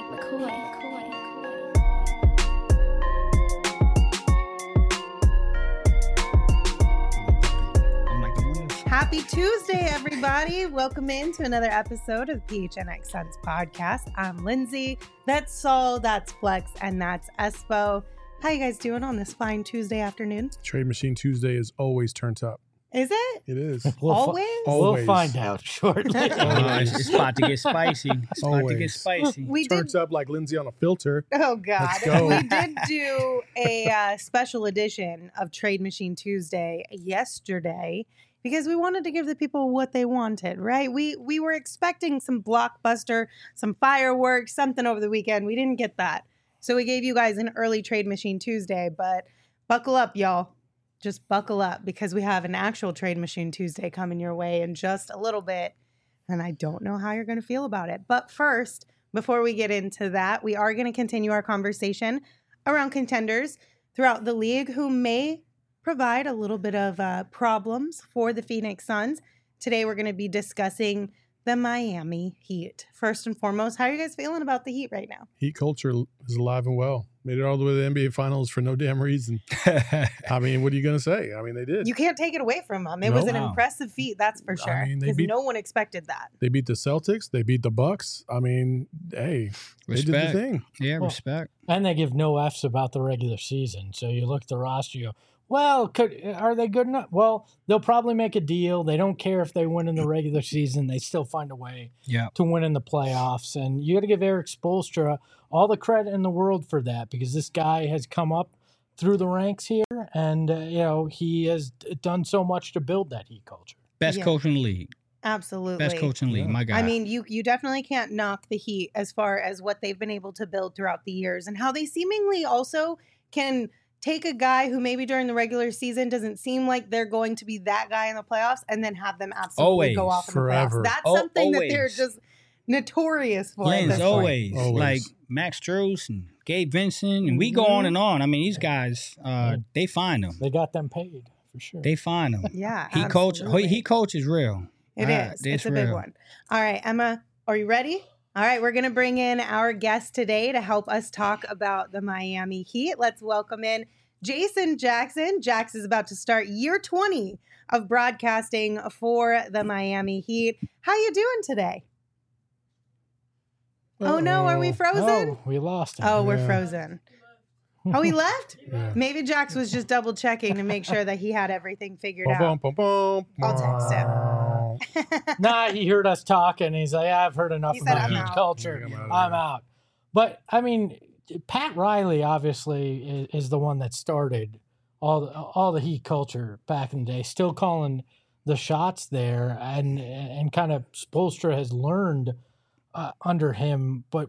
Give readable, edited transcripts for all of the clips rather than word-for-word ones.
Happy Tuesday, everybody. Welcome into another episode of PHNX Suns podcast. I'm Lindsay. That's Saul, that's Flex, and that's Espo. How you guys doing on this fine Tuesday afternoon? Trade Machine Tuesday is always turned up. Is it? It is. Always? We'll find out shortly. It's about to get spicy. It's about to get spicy. We Turns up like Lindsay on a filter. Oh, God. Let's go. We did do a special edition of Trade Machine Tuesday yesterday because we wanted to give the people what they wanted, right? We were expecting some blockbuster, some fireworks, something over the weekend. We didn't get that. So we gave you guys an early Trade Machine Tuesday, but buckle up, y'all. Just buckle up because we have an actual Trade Machine Tuesday coming your way in just a little bit. And I don't know how you're going to feel about it. But first, before we get into that, we are going to continue our conversation around contenders throughout the league who may provide a little bit of problems for the Phoenix Suns. Today, we're going to be discussing the Miami Heat. First and foremost, how are you guys feeling about the Heat right now? Heat culture is alive and well. Made it all the way to the NBA Finals for no damn reason. I mean, what are you going to say? I mean, they did. You can't take it away from them. It was an impressive feat, that's for sure. I mean, because no one expected that. They beat the Celtics. They beat the Bucks. I mean, hey, they did the thing. Yeah, respect. And they give no Fs about the regular season. So you look at the roster, you go, well, are they good enough? Well, they'll probably make a deal. They don't care if they win in the regular season. They still find a way to win in the playoffs. And you got to give Erik Spoelstra all the credit in the world for that because this guy has come up through the ranks here. And, he has done so much to build that Heat culture. Best coach in the league. Absolutely. Best coach in the league, my guy. I mean, you definitely can't knock the Heat as far as what they've been able to build throughout the years and how they seemingly also can take a guy who maybe during the regular season doesn't seem like they're going to be that guy in the playoffs and then have them absolutely go off in the playoffs. That's something that they're just notorious for. Lens, always. Like Max Strus and Gabe Vincent, and we go on and on. I mean, these guys, they find them. They got them paid, for sure. They find them. Yeah, He coach is real. It is. It's a big one. All right, Emma, are you ready? All right, we're going to bring in our guest today to help us talk about the Miami Heat. Let's welcome in Jason Jackson. Jax is about to start year 20 of broadcasting for the Miami Heat. How you doing today? Oh, no, are we frozen? Oh, we lost him. Oh, we're frozen. Oh, he left? Yeah. Maybe Jax was just double checking to make sure that he had everything figured out. I'll text him. Nah, he heard us talking. And he's like, I've heard enough about Heat culture. I'm out. But, I mean, Pat Riley obviously is the one that started all the Heat culture back in the day, still calling the shots there, and kind of Spoelstra has learned under him. But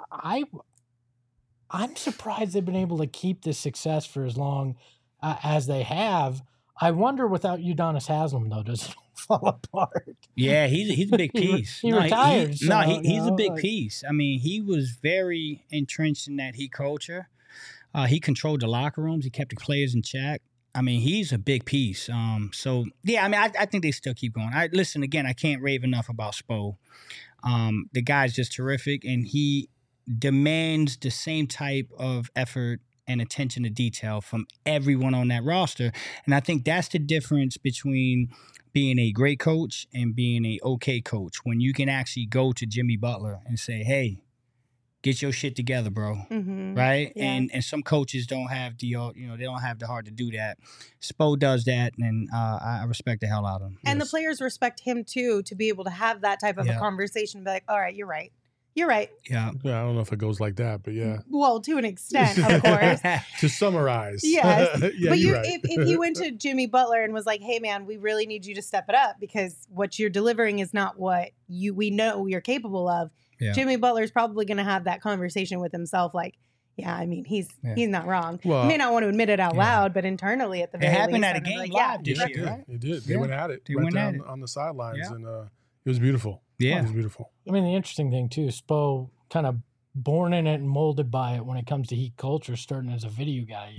I'm surprised they've been able to keep this success for as long as they have. I wonder without Udonis Haslem, though, does it fall apart? Yeah, he's a big piece. He retired. He's a big piece. I mean, he was very entrenched in that Heat culture. He controlled the locker rooms. He kept the players in check. I mean, he's a big piece. So, yeah, I mean, I think they still keep going. Listen, again, I can't rave enough about Spo. The guy's just terrific, and he demands the same type of effort and attention to detail from everyone on that roster. And I think that's the difference between being a great coach and being a okay coach, when you can actually go to Jimmy Butler and say, hey, get your shit together, bro. Mm-hmm. Right? Yeah. And some coaches don't have they don't have the heart to do that. Spo does that, and I respect the hell out of him. And the players respect him too, to be able to have that type of a conversation and be like, all right, you're right. You're right. Yeah. Yeah, I don't know if it goes like that, but yeah. Well, to an extent, of course. To summarize. Yes. Yeah, but right. if he went to Jimmy Butler and was like, hey, man, we really need you to step it up because what you're delivering is not what we know you're capable of. Yeah. Jimmy Butler's probably going to have that conversation with himself like, yeah, I mean, he's not wrong. Well, he may not want to admit it out loud, but internally at the very least. It happened at a game live this year, right? It did. They went at it. They went down on the sidelines, and it was beautiful. Yeah. It was beautiful. I mean, the interesting thing, too, Spo kind of born in it and molded by it when it comes to Heat culture, starting as a video guy.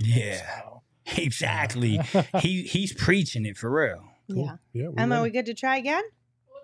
Exactly. He's preaching it for real. Cool. Yeah. Emma, we good to try again?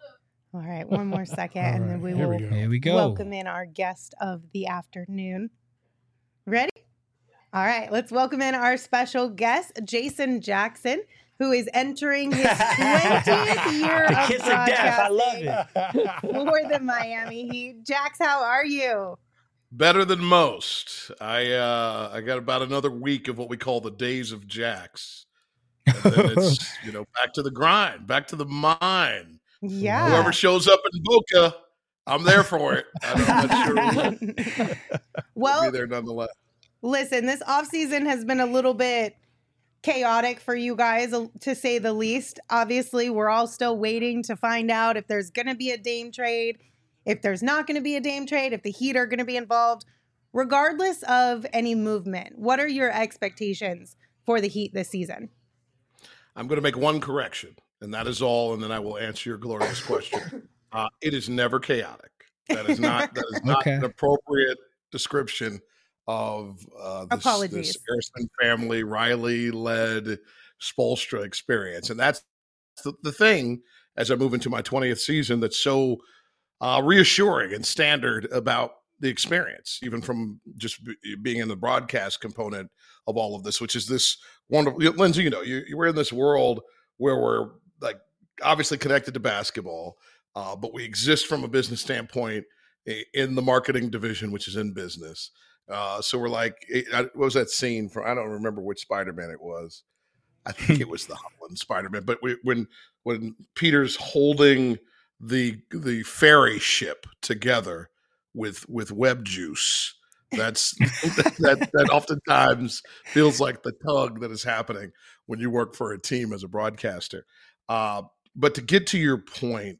All right, one more second, and then Here we go. Welcome in our guest of the afternoon. Ready? All right, let's welcome in our special guest, Jason Jackson, who is entering his 20th year of Kiss of death. I love it. For the Miami Heat. Jax, how are you? Better than most. I got about another week of what we call the days of Jax. And then it's, back to the grind, back to the mine. Yeah. Whoever shows up in Boca, I'm there for it. I'm not sure we'll be there nonetheless. Listen, this offseason has been a little bit chaotic for you guys, to say the least. Obviously, we're all still waiting to find out if there's going to be a Dame trade, if there's not going to be a Dame trade, if the Heat are going to be involved. Regardless of any movement, what are your expectations for the Heat this season? I'm going to make one correction, and that is all, and then I will answer your glorious question. It is never chaotic. That is not Okay. an appropriate description of this Harrison family, Riley-led Spoelstra experience. And that's the thing, as I move into my 20th season, that's so reassuring and standard about the experience, even from just being in the broadcast component of all of this, which is this wonderful, Lindsay, we're in this world where we're like obviously connected to basketball, but we exist from a business standpoint in the marketing division, which is in business. So we're like, what was that scene from? I don't remember which Spider-Man it was. I think it was the Holland Spider-Man. But when Peter's holding the ferry ship together with web juice, that oftentimes feels like the tug that is happening when you work for a team as a broadcaster. But to get to your point,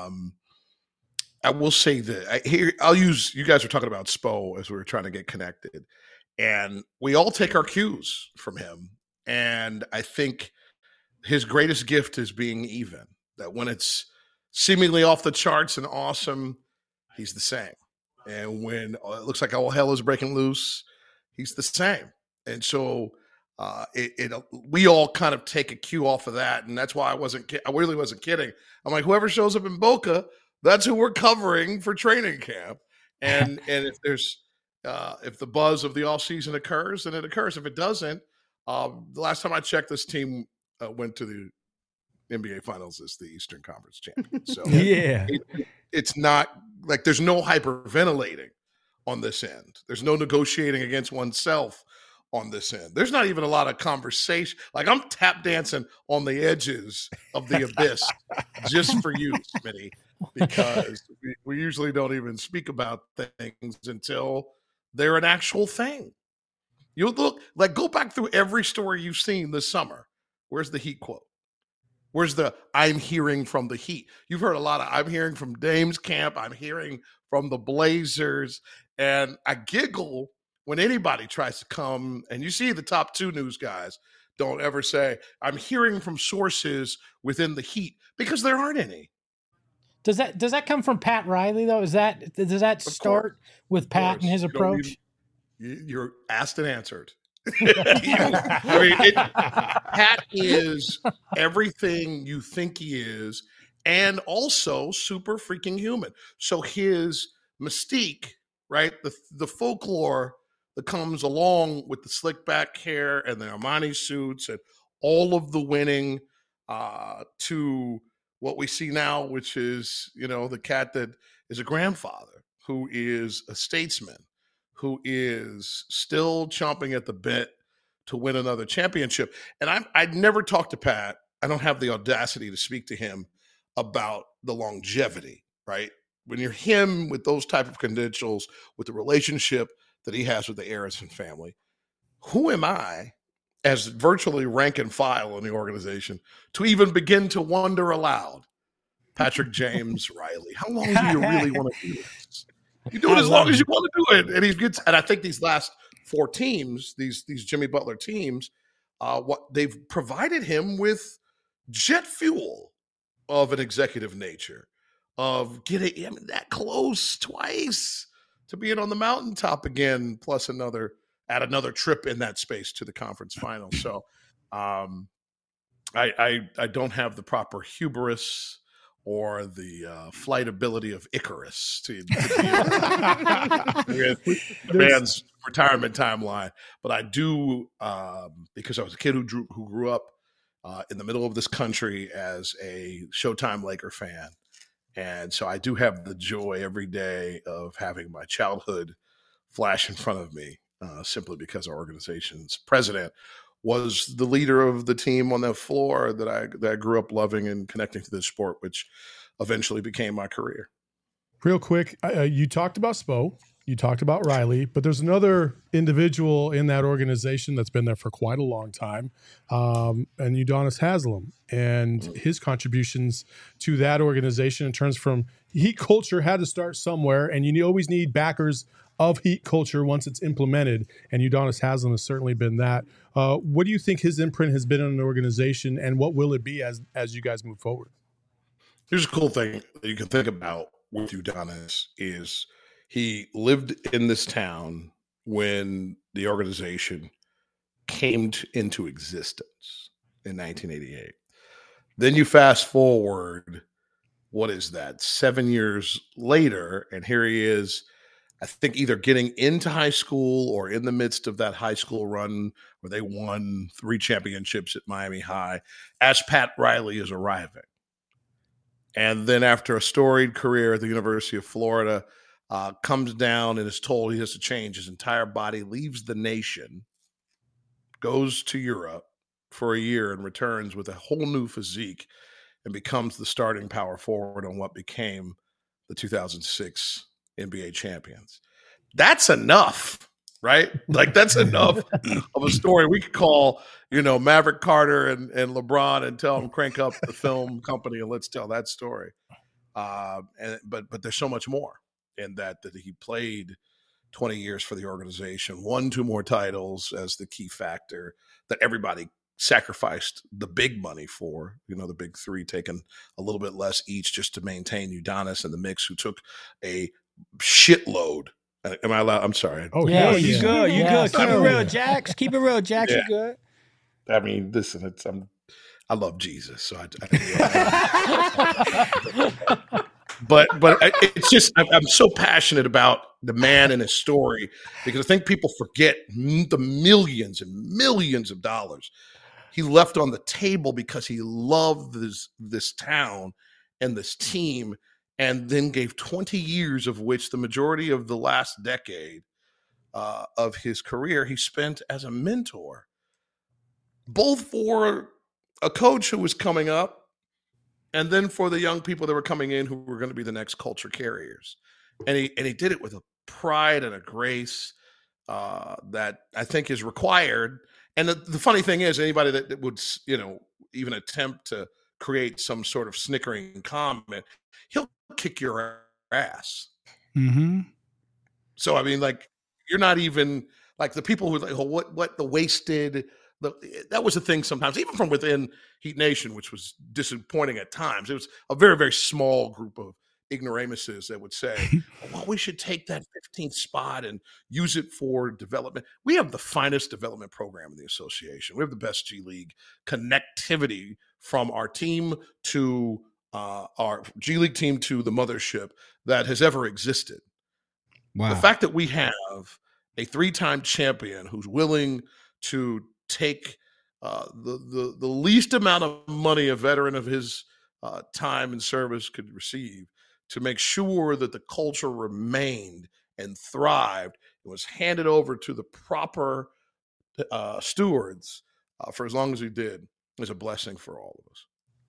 I will say that I'll use, you guys were talking about Spo as we were trying to get connected, and we all take our cues from him. And I think his greatest gift is being even, that when it's seemingly off the charts and awesome, he's the same. And when it looks like all hell is breaking loose, he's the same. And so we all kind of take a cue off of that. And that's why I really wasn't kidding. I'm like, whoever shows up in Boca, that's who we're covering for training camp. And if there's if the buzz of the off season occurs, then it occurs. If it doesn't, the last time I checked, this team went to the NBA Finals as the Eastern Conference champion. So yeah, it's not like there's no hyperventilating on this end. There's no negotiating against oneself on this end. There's not even a lot of conversation. Like I'm tap dancing on the edges of the abyss just for you, Smitty, because we usually don't even speak about things until they're an actual thing. You look, like, go back through every story you've seen this summer. Where's the Heat quote? Where's the I'm hearing from the Heat? You've heard a lot of I'm hearing from Dame's camp. I'm hearing from the Blazers. And I giggle when anybody tries to come, and you see the top two news guys don't ever say, I'm hearing from sources within the Heat, because there aren't any. Does that come from Pat Riley, though? Does that start with Pat and his approach? You're asked and answered. Pat is everything you think he is, and also super freaking human. So his mystique, right? The folklore that comes along with the slick back hair and the Armani suits and all of the winning, to what we see now, which is, the cat that is a grandfather, who is a statesman, who is still chomping at the bit to win another championship. And I'd never talked to Pat. I don't have the audacity to speak to him about the longevity, right? When you're him with those type of credentials, with the relationship that he has with the Harrison family, who am I as virtually rank and file in the organization to even begin to wonder aloud, Patrick James Riley, how long do you really want to do this? You do it as long as you want to do it. And I think these last four teams, these Jimmy Butler teams, what they've provided him with jet fuel of an executive nature, of getting him that close twice to being on the mountaintop again, plus another trip in that space to the conference final. So I don't have the proper hubris or the flight ability of Icarus to deal with the man's retirement timeline. But I do, because I was a kid who grew up in the middle of this country as a Showtime Laker fan. And so I do have the joy every day of having my childhood flash in front of me, simply because our organization's president was the leader of the team on the floor that I grew up loving and connecting to this sport, which eventually became my career. Real quick, you talked about Spo, you talked about Riley, but there's another individual in that organization that's been there for quite a long time, and Udonis Haslem, and his contributions to that organization in terms from Heat culture had to start somewhere, and you always need backers of Heat culture once it's implemented, and Udonis Haslem has certainly been that. What do you think his imprint has been on an organization, and what will it be as you guys move forward? Here's a cool thing that you can think about with Udonis is he lived in this town when the organization came into existence in 1988. Then you fast forward, what is that, 7 years later, and here he is, I think either getting into high school or in the midst of that high school run where they won 3 championships at Miami High as Pat Riley is arriving. And then after a storied career at the University of Florida, comes down and is told he has to change his entire body, leaves the nation, goes to Europe for a year and returns with a whole new physique and becomes the starting power forward on what became the 2006 NBA champions. That's enough, right? Like that's enough of a story. We could call, Maverick Carter and LeBron and tell them crank up the film company and let's tell that story. But there's so much more in that he played 20 years for the organization, won 2 more titles as the key factor that everybody sacrificed the big money for, the big 3 taking a little bit less each just to maintain Udonis in the mix, who took a shitload. Am I allowed? I'm sorry. Oh, yeah, you good. You good. Keep it real, Jax. Keep it real, Jax. You good. I mean, listen, I love Jesus, so But it's just I'm so passionate about the man and his story because I think people forget the millions and millions of dollars he left on the table because he loved this town and this team, and then gave 20 years of which the majority of the last decade of his career he spent as a mentor, both for a coach who was coming up and then for the young people that were coming in who were going to be the next culture carriers. And he did it with a pride and a grace that I think is required. And the funny thing is, anybody that would, even attempt to create some sort of snickering comment, he'll kick your ass. Mm-hmm. So, I mean, like, you're not even like the people who like, oh, what the wasted. That was the thing sometimes, even from within Heat Nation, which was disappointing at times. It was a very, very small group of ignoramuses that would say, well, we should take that 15th spot and use it for development. We have the finest development program in the association. We have the best G League connectivity from our team to our G League team to the mothership that has ever existed. Wow. The fact that we have a 3-time champion who's willing to take the least amount of money a veteran of his time and service could receive to make sure that the culture remained and thrived and was handed over to the proper stewards for as long as he did is a blessing for all of us.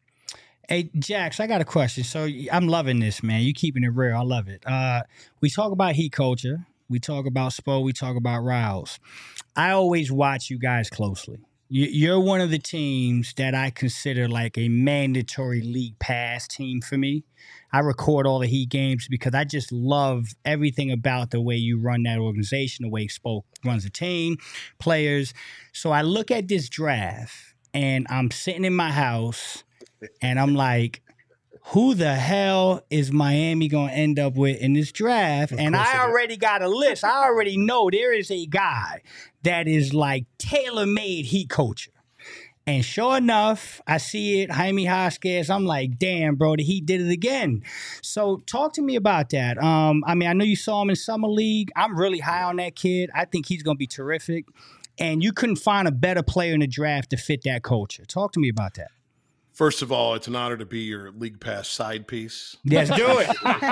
Hey, Jax, I got a question. So I'm loving this, man. You keeping it real. I love it. We talk about Heat culture. We talk about Spo. We talk about Riles. I always watch you guys closely. You're one of the teams that I consider like a mandatory league pass team for me. I record all the Heat games because I just love everything about the way you run that organization, the way Spo runs the team, players. So I look at this draft and I'm sitting in my house and I'm like, who the hell is Miami going to end up with in this draft? And I already got a list. I already know there is a guy that is like tailor-made Heat culture. And sure enough, I see it, Jaime Jaquez. I'm like, damn, bro, the Heat did it again. So talk to me about that. I mean, I know you saw him in Summer League. I'm really high on that kid. I think he's going to be terrific. And you couldn't find a better player in the draft to fit that culture. Talk to me about that. First of all, it's an honor to be your League Pass side piece. Yes, do it.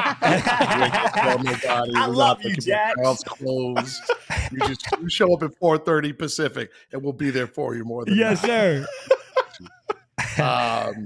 I love you, Jack. Closed. You show up at 4:30 Pacific, and we'll be there for you more than yes, that. Sir.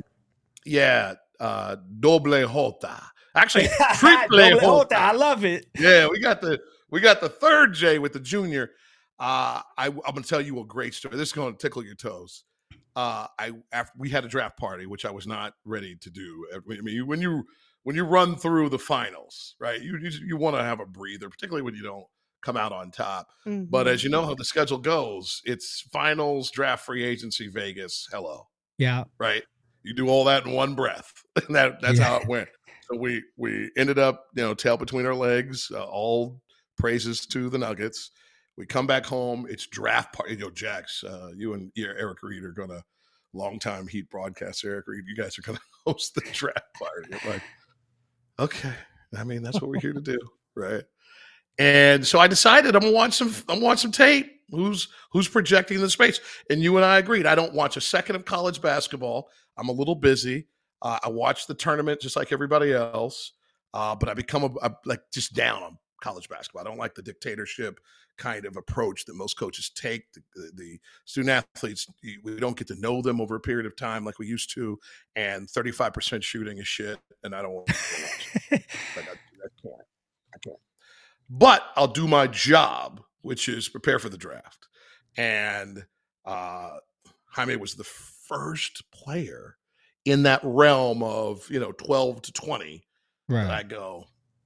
Doble Jota. Actually, triple Jota. I love it. Yeah, we got the third J with the junior. I'm going to tell you a great story. This is going to tickle your toes. After we had a draft party, which I was not ready to do. I mean, when you run through the finals, right? You want to have a breather, particularly when you don't come out on top. Mm-hmm. But as you know how the schedule goes, it's finals, draft, free agency, Vegas. Hello, yeah, right. You do all that in one breath, and that's how it went. So we ended up, tail between our legs. All praises to the Nuggets. We come back home. It's draft party. Jax, you and Eric Reed are going to, longtime Heat broadcaster Eric Reed, you guys are going to host the draft party. I'm like, okay. I mean, that's what we're here to do, right? And so I decided I'm going to watch some tape. Who's projecting the space? And you and I agreed. I don't watch a second of college basketball. I'm a little busy. I watch the tournament just like everybody else, but I become just down on college basketball. I don't like the dictatorship kind of approach that most coaches take. The student athletes, we don't get to know them over a period of time like we used to, and 35% shooting is shit, and I don't want to watch it. I can't. But I'll do my job, which is prepare for the draft. And Jaime was the first player in that realm of 12 to 20 that I go,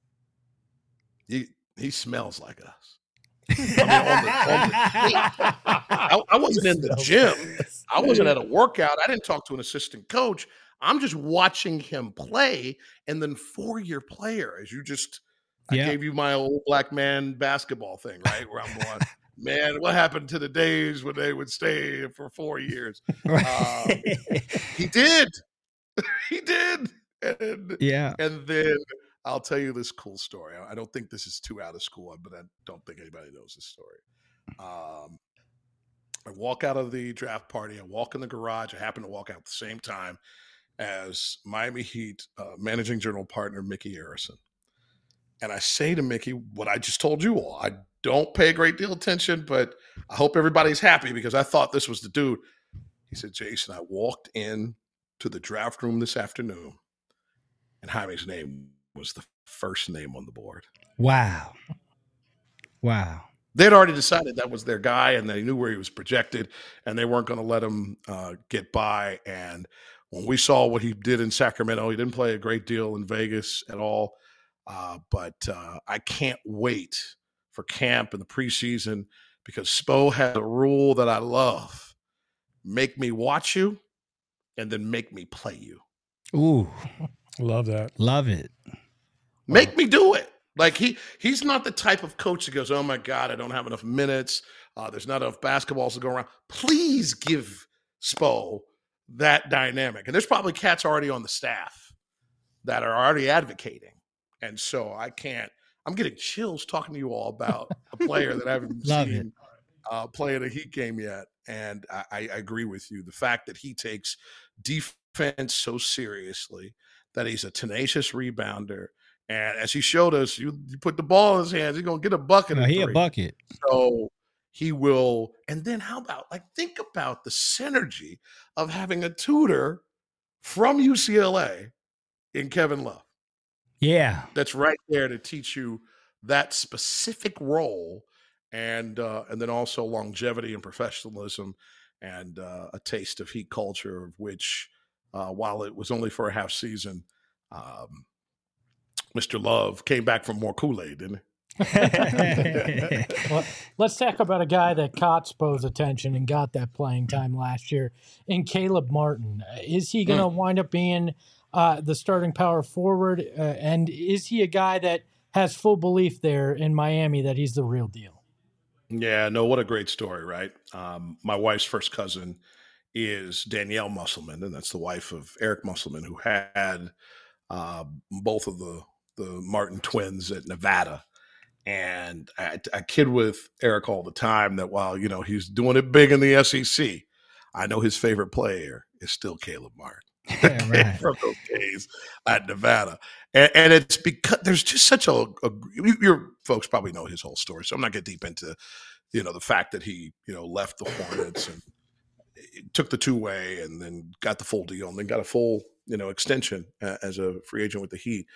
he smells like us. I wasn't in the gym. I wasn't at a workout. I didn't talk to an assistant coach. I'm just watching him play. And then 4-year player, as I gave you my old black man basketball thing, right? Where I'm going, man, what happened to the days when they would stay for 4 years? He did. He did. And then I'll tell you this cool story. I don't think this is too out of school, but I don't think anybody knows this story. I walk out of the draft party. I walk in the garage. I happen to walk out at the same time as Miami Heat managing general partner Mickey Arison. And I say to Mickey what I just told you all. I don't pay a great deal of attention, but I hope everybody's happy because I thought this was the dude. He said, Jason, I walked in to the draft room this afternoon, and Jaime's name was the first name on the board. Wow. They'd already decided that was their guy, and they knew where he was projected, and they weren't going to let him get by. And when we saw what he did in Sacramento, he didn't play a great deal in Vegas at all. But I can't wait for camp and the preseason because Spo has a rule that I love. Make me watch you and then make me play you. Ooh. Love that. Love it. Make me do it. Like he's not the type of coach that goes, oh my God, I don't have enough minutes. There's not enough basketballs to go around. Please give Spo that dynamic. And there's probably cats already on the staff that are already advocating. And so I'm getting chills talking to you all about a player that I haven't seen play in a Heat game yet. And I agree with you. The fact that he takes defense so seriously, that he's a tenacious rebounder. And as he showed us, you put the ball in his hands, he's going to get a bucket. He a bucket. So he will. And then how about, think about the synergy of having a tutor from UCLA in Kevin Love. Yeah. That's right there to teach you that specific role and then also longevity and professionalism and a taste of Heat culture, of which, while it was only for a half season, Mr. Love came back from more Kool-Aid, didn't he? Well, let's talk about a guy that caught Spo's attention and got that playing time last year in Caleb Martin. Is he going to wind up being the starting power forward? And is he a guy that has full belief there in Miami that he's the real deal? Yeah, no, what a great story, right? My wife's first cousin is Danielle Musselman, and that's the wife of Eric Musselman, who had both of the Martin twins at Nevada. And I kid with Eric all the time that while, he's doing it big in the SEC, I know his favorite player is still Caleb Martin. Yeah, right. From those days at Nevada. And it's because there's just such your folks probably know his whole story, so I'm not getting deep into, the fact that he, left the Hornets and took the two-way and then got the full deal and then got a full, extension as a free agent with the Heat.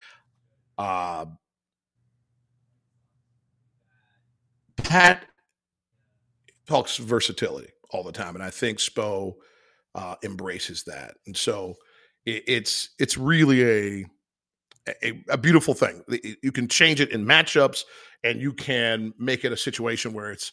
Pat talks versatility all the time, and I think Spo embraces that. And so it's really a beautiful thing. You can change it in matchups, and you can make it a situation where it's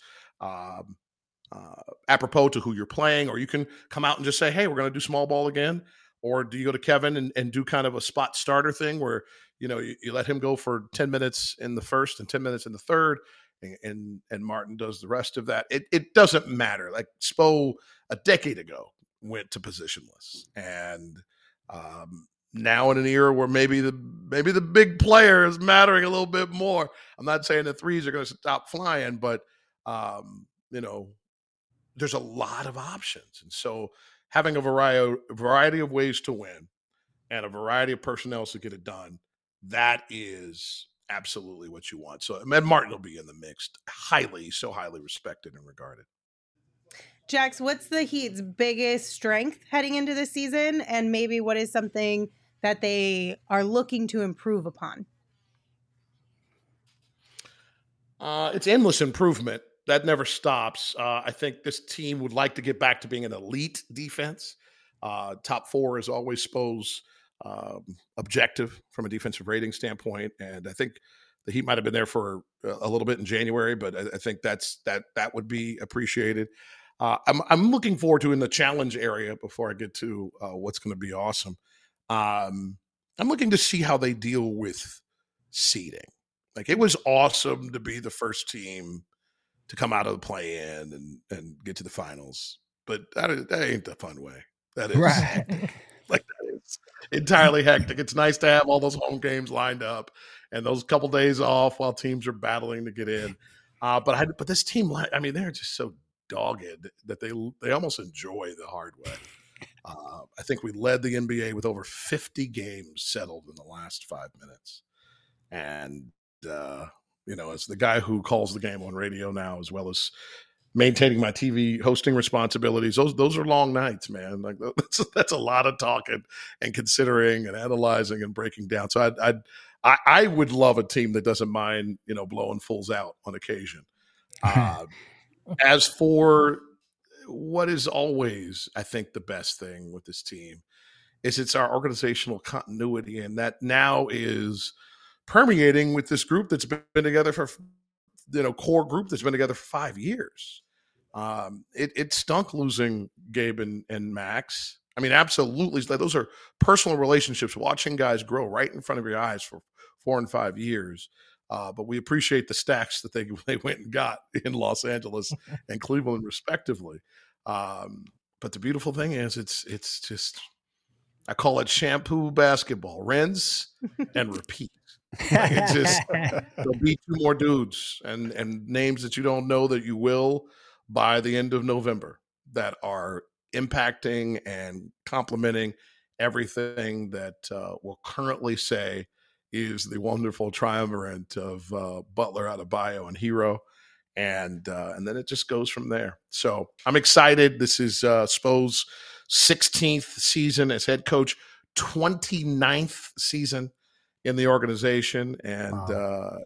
apropos to who you're playing, or you can come out and just say, hey, we're going to do small ball again. Or do you go to Kevin and do kind of a spot starter thing where, you let him go for 10 minutes in the first and 10 minutes in the third, and Martin does the rest of that. It doesn't matter. Like Spo a decade ago went to positionless, and now in an era where maybe the big player is mattering a little bit more. I'm not saying the threes are going to stop flying, but there's a lot of options, and so having a variety of ways to win and a variety of personnel to get it done, that is absolutely what you want. So Ed Martin will be in the mix, so highly respected and regarded. Jax, what's the Heat's biggest strength heading into the season, and maybe what is something that they are looking to improve upon? It's endless improvement. That never stops. I think this team would like to get back to being an elite defense. Top four is always Spo's objective from a defensive rating standpoint, and I think the Heat might have been there for a little bit in January, but I think that would be appreciated. I'm looking forward to in the challenge area before I get to what's going to be awesome. I'm looking to see how they deal with seeding. Like, it was awesome to be the first team to come out of the play-in and get to the finals, but that ain't the fun way. That is right. Like, that is entirely hectic. It's nice to have all those home games lined up and those couple days off while teams are battling to get in. But this team, I mean, they're just so dogged that they almost enjoy the hard way. I think we led the NBA with over 50 games settled in the last 5 minutes. And, as the guy who calls the game on radio now, as well as maintaining my TV hosting responsibilities, those are long nights, man. Like, that's a lot of talking and considering and analyzing and breaking down. So I would love a team that doesn't mind, blowing fools out on occasion. As for what is always, I think, the best thing with this team is it's our organizational continuity, and that now is permeating with this group that's been together for, core group that's been together for 5 years. It stunk losing Gabe and Max. I mean, absolutely. Those are personal relationships, watching guys grow right in front of your eyes for 4 and 5 years. But we appreciate the stacks that they went and got in Los Angeles and Cleveland, respectively. But the beautiful thing is, it's just, I call it shampoo basketball: rinse and repeat. Like, it's just, there'll be 2 more dudes and names that you don't know that you will by the end of November that are impacting and complementing everything that we'll currently say is the wonderful triumvirate of Butler, Adebayo, and Hero. And then it just goes from there. So I'm excited. This is Spo's 16th season as head coach, 29th season in the organization. And wow.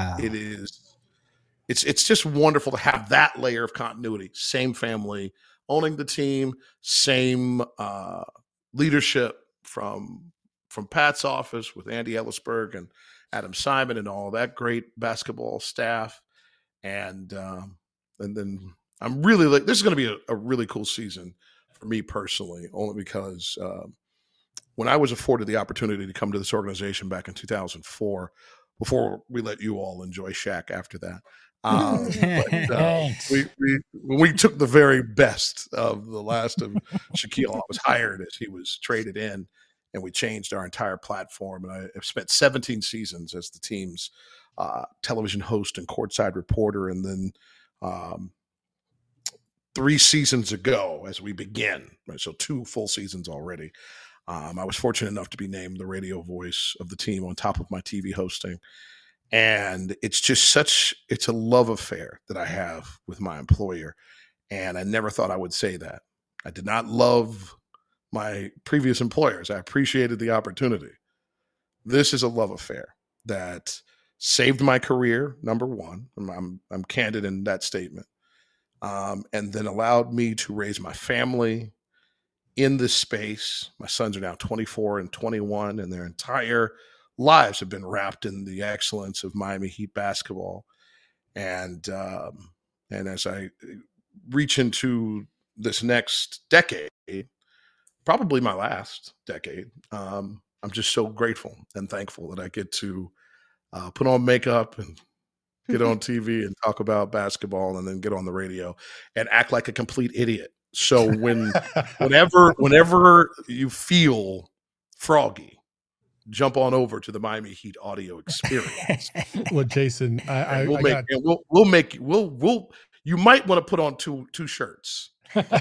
It's just wonderful to have that layer of continuity. Same family owning the team, same leadership from Pat's office with Andy Ellisberg and Adam Simon and all that great basketball staff. And then I'm really this is going to be a really cool season for me personally, only because when I was afforded the opportunity to come to this organization back in 2004, before we let you all enjoy Shaq after that, We took the very best of the last of Shaquille. I was hired as he was traded in, and we changed our entire platform. And I have spent 17 seasons as the team's television host and courtside reporter. And then 3 seasons ago, as we begin, right, so 2 full seasons already, I was fortunate enough to be named the radio voice of the team on top of my TV hosting. And it's just it's a love affair that I have with my employer. And I never thought I would say that. I did not love my previous employers. I appreciated the opportunity. This is a love affair that saved my career, number one. I'm candid in that statement. And then allowed me to raise my family in this space. My sons are now 24 and 21, and their entire lives have been wrapped in the excellence of Miami Heat basketball. And as I reach into this next decade, probably my last decade, I'm just so grateful and thankful that I get to put on makeup and get on TV and talk about basketball, and then get on the radio and act like a complete idiot. So whenever you feel froggy, jump on over to the Miami Heat audio experience. Well, Jason, you might want to put on two shirts.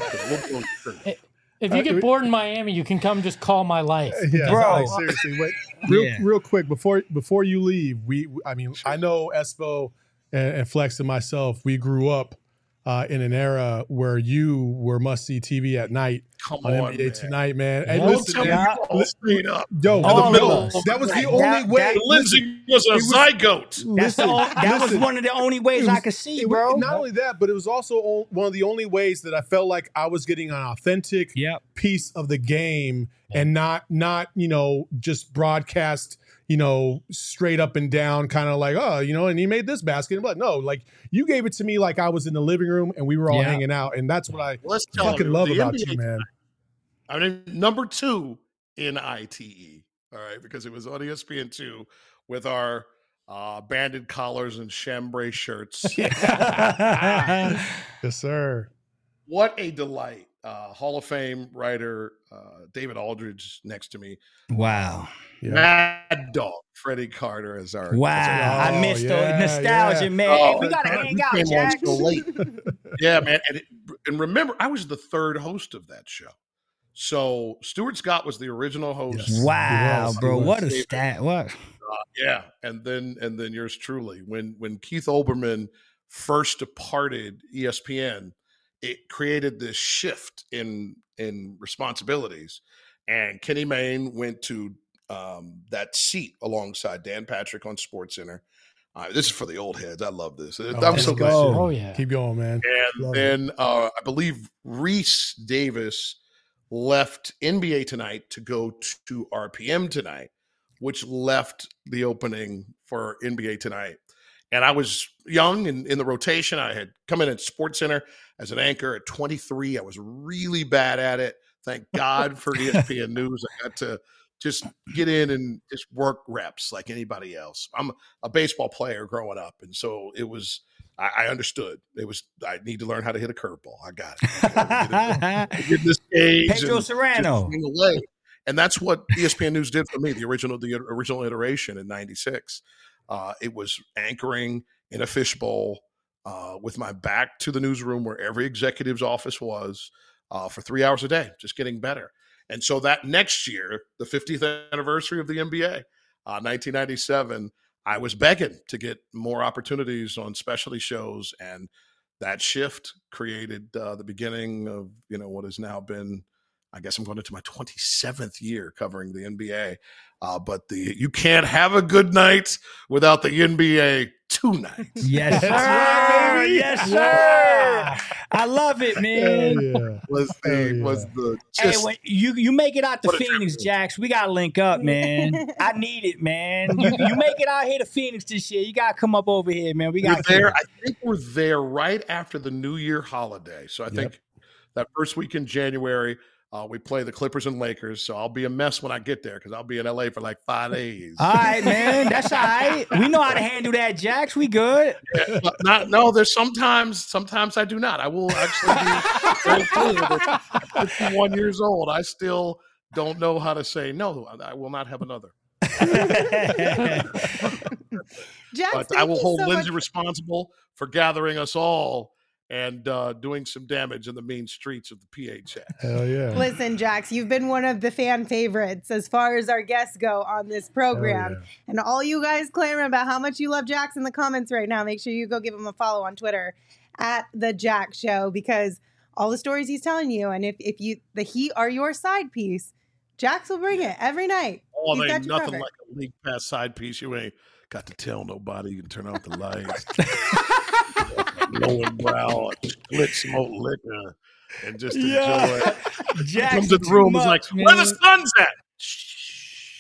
If you get bored in Miami, you can come just call my life. Yeah, bro. Seriously, wait, real quick before you leave, I know Espo and Flex and myself, we grew up in an era where you were must-see TV at night on NBA man. Tonight, man. And listen, that was the only way. Lindsay was a zygote. That was one of the only ways I could see, bro. Not only that, but it was also one of the only ways that I felt like I was getting an authentic piece of the game and not just broadcast, straight up and down, kind of like, and he made this basket. But no, like you gave it to me like I was in the living room and we were all hanging out. And that's what I fucking love about NBA you, man. I mean, number 2 in ITE, all right, because it was on ESPN2 with our banded collars and chambray shirts. Yes, sir. What a delight. Hall of Fame writer David Aldridge next to me. Wow. Mad Dog Freddie Carter as our I missed the nostalgia, man. Hey, we gotta hang out, Jack. So late. Yeah, man. And remember, I was the 3rd host of that show. So Stuart Scott was the original host. Yes. Wow, bro. What a stat. What? Yeah. And then yours truly. When Keith Olbermann first departed ESPN, it created this shift in responsibilities. And Kenny Mayne went to that seat alongside Dan Patrick on SportsCenter. This is for the old heads. I love this. I'm so glad. Oh, yeah. Keep going, man. And then I believe Reese Davis left NBA Tonight to go to RPM Tonight, which left the opening for NBA Tonight. And I was young and in the rotation. I had come in at SportsCenter as an anchor at 23. I was really bad at it. Thank God for ESPN News. I got to just get in and just work reps like anybody else. I'm a baseball player growing up. And so it was, I understood. I need to learn how to hit a curveball. I got it. Get this age. Pedro Serrano. And that's what ESPN News did for me, the original iteration in 96. It was anchoring in a fishbowl with my back to the newsroom where every executive's office was for 3 hours a day, just getting better. And so that next year, the 50th anniversary of the NBA, 1997, I was begging to get more opportunities on specialty shows. And that shift created the beginning of, what has now been, I guess I'm going into my 27th year covering the NBA. But you can't have a good night without the NBA tonight. Yes, sir. Yes, sir. I love it, man. Hey, when you make it out to Phoenix, Jax, we gotta link up, man. I need it, man. You make it out here to Phoenix this year. You gotta come up over here, man. We got there. I think we're there right after the New Year holiday. So I think that first week in January, We play the Clippers and Lakers, so I'll be a mess when I get there because I'll be in LA for like 5 days. All right, man. That's all right. We know how to handle that, Jax. We good. No, there's sometimes I do not. I will actually be very clear that at 51 years old, I still don't know how to say no. I will not have another. Jax, but I will hold Lindsay responsible for gathering us all and doing some damage in the mean streets of the PHX. Hell yeah. Listen, Jax, you've been one of the fan favorites as far as our guests go on this program. Yeah. And all you guys clamoring about how much you love Jax in the comments right now, make sure you go give him a follow on Twitter at The Jax Show, because all the stories he's telling you, and if the Heat are your side piece, Jax will bring it every night. Oh, there ain't nothing like a league pass side piece. You ain't got to tell nobody. You can turn off the lights. Low brow, split smoke liquor, and just enjoy it. Jax comes in the room, he's like, where the sun's at? Shh.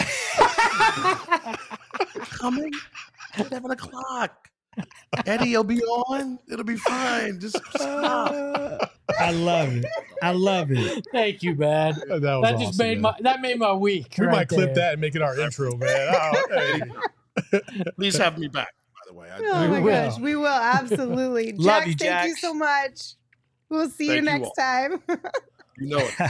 Coming at 7 o'clock. Eddie will be on. It'll be fine. Just stop. I love it. I love it. Thank you, man. That just awesome, made my week. We might clip that and make it our intro, man. Hey. Please have me back. The way. Oh my gosh, we will absolutely. Jax, thank you so much. We'll see you next time. You know it.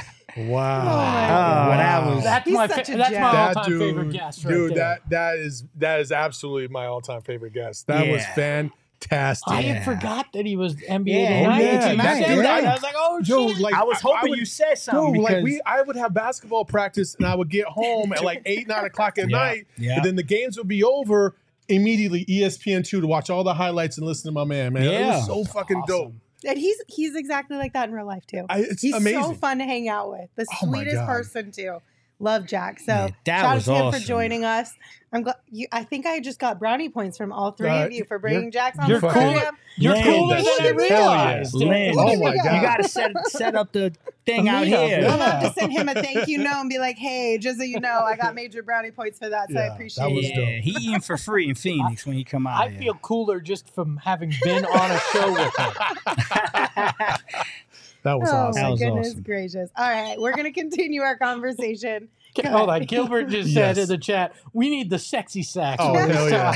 Wow. That's my all-time favorite guest right there. That is absolutely my all-time favorite guest. That was fantastic. I had forgot that he was NBA tonight. I was like, oh shit. I was hoping you said something. I would have basketball practice and I would get home at like 8, 9 o'clock at night. And then the games would be over. Immediately ESPN2 to watch all the highlights and listen to my man. It was so fucking dope. And he's exactly like that in real life too. He's amazing. So fun to hang out with. The sweetest person too. Love Jack. So shout out to him for joining us. I'm glad I think I just got brownie points from all three of you for bringing Jax on the program. You're cooler than I realized. Oh my God. You got to set up the thing out here. I'm about to send him a thank you note and be like, hey, just so you know, I got major brownie points for that, so I appreciate it. Yeah, he eating for free in Phoenix when he come out. I feel cooler just from having been on a show with him. That was awesome. Oh my goodness gracious. All right, we're going to continue our conversation. Hold on. Gilbert just said in the chat, we need the sexy sax. Oh, hell yeah.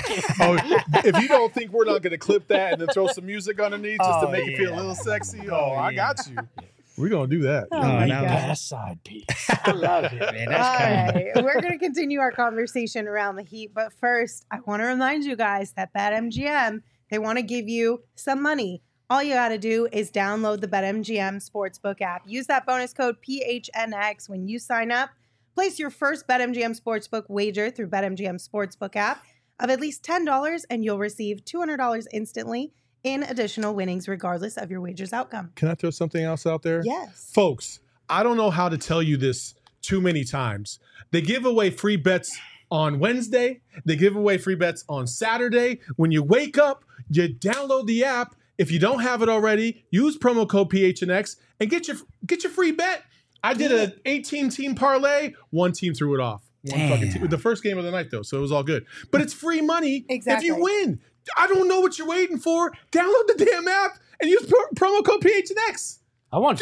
If you don't think we're not going to clip that and then throw some music underneath just to make it feel a little sexy, I got you. We're going to do that. Oh, my God. Best side piece. I love it, man. That's all right. We're going to continue our conversation around the Heat. But first, I want to remind you guys that BetMGM, they want to give you some money. All you got to do is download the BetMGM Sportsbook app. Use that bonus code PHNX when you sign up. Place your first BetMGM Sportsbook wager through BetMGM Sportsbook app of at least $10, and you'll receive $200 instantly in additional winnings, regardless of your wager's outcome. Can I throw something else out there? Yes. Folks, I don't know how to tell you this too many times. They give away free bets on Wednesday. They give away free bets on Saturday. When you wake up, you download the app. If you don't have it already, use promo code PHNX and get your free bet. I did an 18-team parlay. One team threw it off. The first game of the night, though, so it was all good. But it's free money if you win. I don't know what you're waiting for. Download the damn app and use promo code PHNX. I want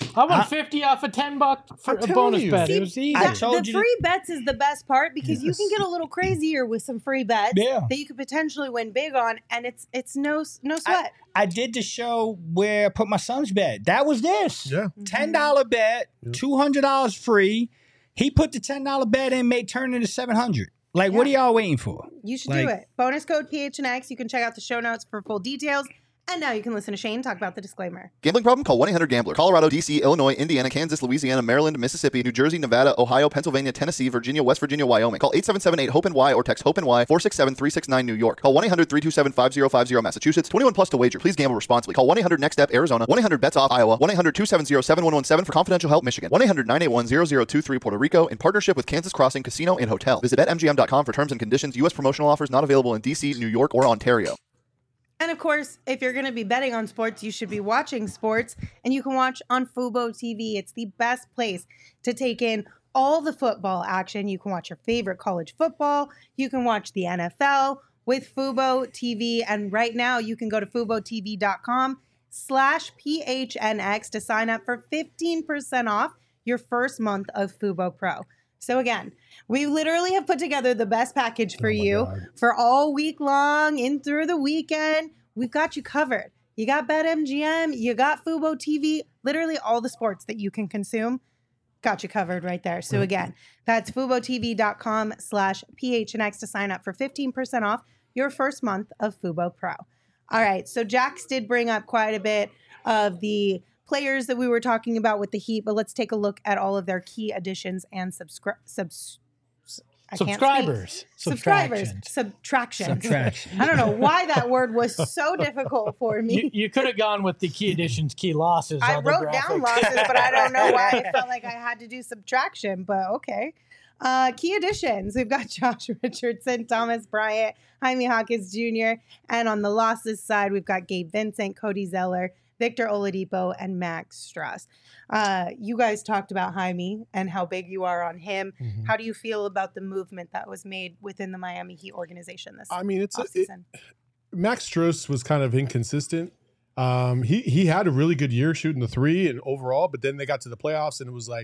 50 off a $10 for a bonus bet. See, it was easy. The free bets is the best part because you can get a little crazier with some free bets that you could potentially win big on, and it's no sweat. I did the show where I put my son's bet. That was this. Yeah. $10 bet, $200 free. He put the $10 bet in, turn into $700. What are y'all waiting for? You should do it. Bonus code PHNX. You can check out the show notes for full details. And now you can listen to Shane talk about the disclaimer. Gambling problem? Call 1-800-GAMBLER. Colorado, D.C., Illinois, Indiana, Kansas, Louisiana, Maryland, Mississippi, New Jersey, Nevada, Ohio, Pennsylvania, Tennessee, Virginia, West Virginia, Wyoming. Call 877-8-HOPE-NY or text HOPE-NY 467-369 New York. Call 1-800-327-5050 Massachusetts. 21 plus to wager. Please gamble responsibly. Call 1-800-NEXT-STEP Arizona. 1-800-BETS-OFF Iowa. 1-800-270-7117 for confidential help Michigan. 1-800-981-0023 Puerto Rico in partnership with Kansas Crossing Casino and Hotel. Visit BetMGM.com for terms and conditions. U.S. promotional offers not available in D.C., New York, or Ontario. And of course, if you're going to be betting on sports, you should be watching sports, and you can watch on Fubo TV. It's the best place to take in all the football action. You can watch your favorite college football. You can watch the NFL with Fubo TV. And right now, you can go to FuboTV.com/PHNX to sign up for 15% off your first month of Fubo Pro. So again, we literally have put together the best package for you for all week long and through the weekend. We've got you covered. You got BetMGM, you got Fubo TV, literally all the sports that you can consume. Got you covered right there. So again, that's FuboTV.com/PHNX to sign up for 15% off your first month of Fubo Pro. All right. So Jax did bring up quite a bit of the players that we were talking about with the Heat, but let's take a look at all of their key additions and subtractions. I don't know why that word was so difficult for me. You could have gone with the key additions, key losses. I wrote down losses, but I don't know why I felt like I had to do subtraction, but okay. Key additions. We've got Josh Richardson, Thomas Bryant, Jaime Jaquez Jr., and on the losses side, we've got Gabe Vincent, Cody Zeller, Victor Oladipo, and Max Strus. You guys talked about Jaime and how big you are on him. Mm-hmm. How do you feel about the movement that was made within the Miami Heat organization this offseason? Max Strus was kind of inconsistent. He had a really good year shooting the three and overall, but then they got to the playoffs and it was like,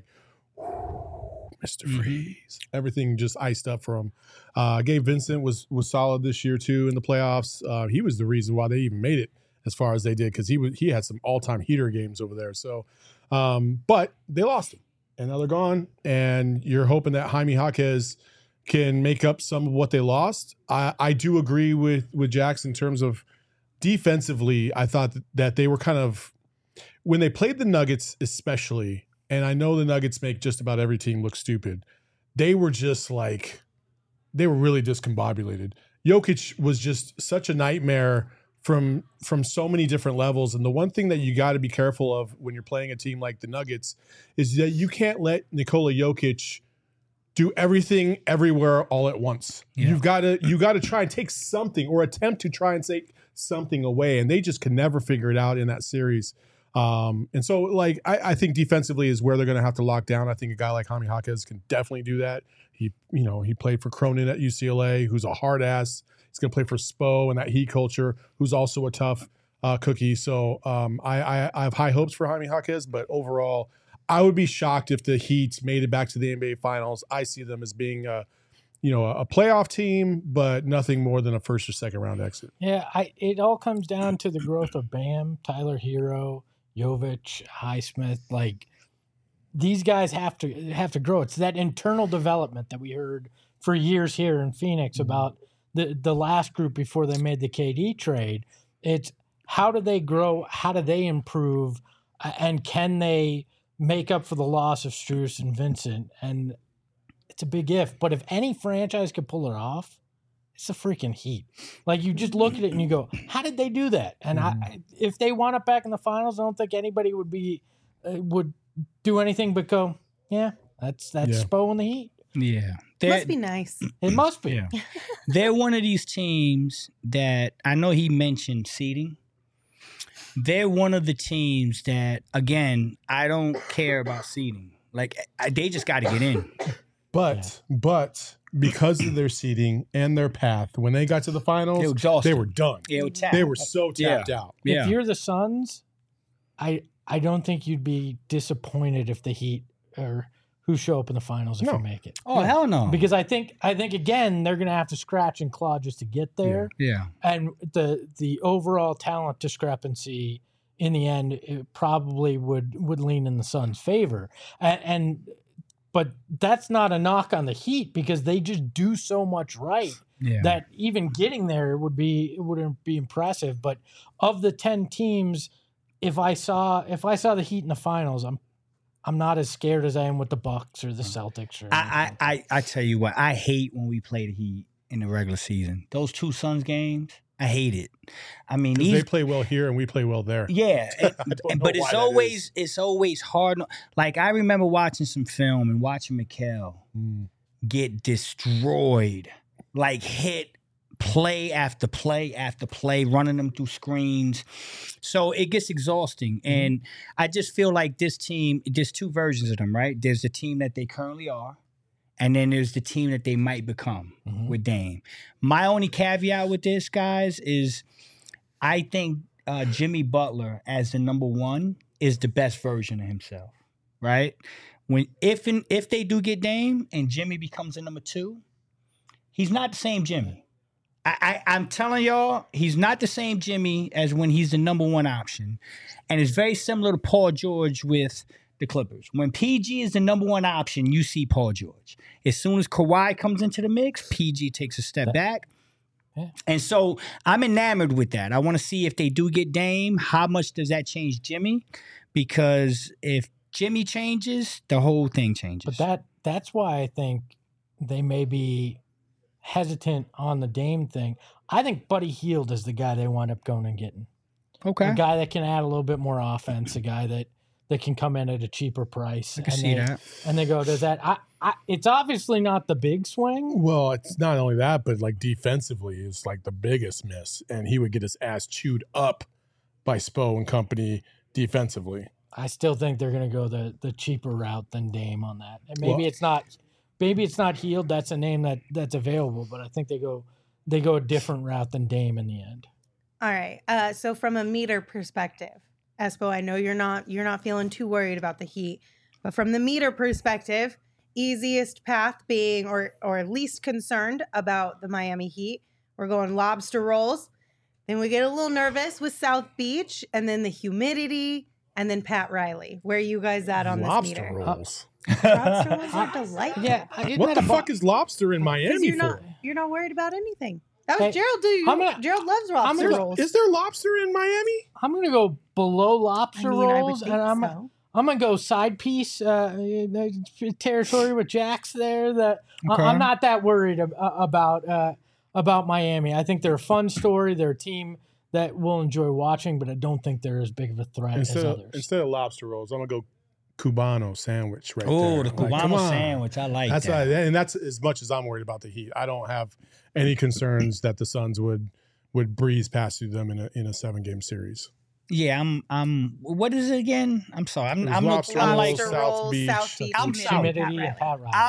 Mr. Freeze. Everything just iced up for him. Gabe Vincent was solid this year too in the playoffs. He was the reason why they even made it as far as they did, because he had some all-time heater games over there. So, but they lost him, and now they're gone. And you're hoping that Jaime Jaquez can make up some of what they lost. I do agree with Jax in terms of defensively. I thought that they were kind of, when they played the Nuggets especially, and I know the Nuggets make just about every team look stupid, they were just like, they were really discombobulated. Jokic was just such a nightmare from so many different levels. And the one thing that you got to be careful of when you're playing a team like the Nuggets is that you can't let Nikola Jokic do everything everywhere all at once. Yeah. You got to try and take something, or attempt to try and take something away. And they just could never figure it out in that series. And so, like, I think defensively is where they're going to have to lock down. I think a guy like Jaime Jaquez can definitely do that. He played for Cronin at UCLA, who's a hard ass. He's going to play for Spo and that Heat culture, who's also a tough cookie. So I have high hopes for Jaime Jaquez, but overall, I would be shocked if the Heat made it back to the NBA Finals. I see them as being a playoff team, but nothing more than a first or second round exit. Yeah, it all comes down to the growth of Bam, Tyler Hero, Jovic, Highsmith. Like, these guys have to grow. It's that internal development that we heard for years here in Phoenix about the last group before they made the KD trade. It's how do they grow? How do they improve? And can they make up for the loss of Strus and Vincent? And it's a big if. But if any franchise could pull it off, it's the freaking Heat. Like, you just look at it and you go, how did they do that? And if they wound up back in the finals, I don't think anybody would do anything but go, yeah, that's Spo and the Heat. Yeah. Must be nice. It must be. Yeah. They're one of these teams that, I know he mentioned seeding. They're one of the teams that, again, I don't care about seeding. Like, they just got to get in. But because of their seeding and their path, when they got to the finals, they were done. They were so tapped out. Yeah. If you're the Suns, I don't think you'd be disappointed if the Heat or who show up in the finals if you make it. Oh, hell no. Because I think again, they're going to have to scratch and claw just to get there. Yeah. And the overall talent discrepancy in the end, it probably would lean in the Suns' favor. But that's not a knock on the Heat, because they just do so much right that even getting there wouldn't be impressive. But of the 10 teams, if I saw the Heat in the finals, I'm not as scared as I am with the Bucks or the Celtics. Or I tell you what, I hate when we play the Heat in the regular season. Those two Suns games, I hate it. I mean, they play well here and we play well there. Yeah, but it's always hard. Like, I remember watching some film and watching Mikal get destroyed, like hit play after play after play, running them through screens. So it gets exhausting. And I just feel like this team, there's two versions of them, right? There's the team that they currently are, and then there's the team that they might become with Dame. My only caveat with this, guys, is I think Jimmy Butler as the number one is the best version of himself, right? if they do get Dame and Jimmy becomes a number 2, he's not the same Jimmy. I'm telling y'all, he's not the same Jimmy as when he's the number 1 option. And it's very similar to Paul George with the Clippers. When PG is the number 1 option, you see Paul George. As soon as Kawhi comes into the mix, PG takes a step back. Yeah. And so I'm enamored with that. I want to see if they do get Dame, how much does that change Jimmy? Because if Jimmy changes, the whole thing changes. But that's why I think they may be hesitant on the Dame thing. I think Buddy Hield is the guy they wind up going and getting. Okay. A guy that can add a little bit more offense, a guy that can come in at a cheaper price. I can see that. And they go, does that it's obviously not the big swing. Well, it's not only that, but like defensively is like the biggest miss. And he would get his ass chewed up by Spo and company defensively. I still think they're going to go the cheaper route than Dame on that. And maybe it's not Hield. That's a name that's available, but I think they go a different route than Dame in the end. All right. So from a meter perspective, Espo, I know you're not feeling too worried about the Heat, but from the meter perspective, easiest path being or least concerned about the Miami Heat, we're going lobster rolls. Then we get a little nervous with South Beach, and then the humidity, and then Pat Riley. Where are you guys at on this meter? Rolls. Lobster rolls are delightful. Yeah. What the fuck is lobster in Miami for? You're not worried about anything. That was Gerald. Gerald loves lobster rolls. Is there lobster in Miami? I'm going to go below lobster rolls, and I'm going to go side piece territory with Jax there. I'm not that worried about Miami. I think they're a fun story. They're a team that we'll enjoy watching, but I don't think they're as big of a threat as others. Instead of lobster rolls, I'm going to go Cubano sandwich right there. Oh, the Cubano sandwich. I like that. And that's as much as I'm worried about the Heat. I don't have any concerns that the Suns would breeze past through them in a 7-game series. Yeah, I'm. What is it again? I'm sorry. I'm like South Beach. I'm humidity and Pat Riley.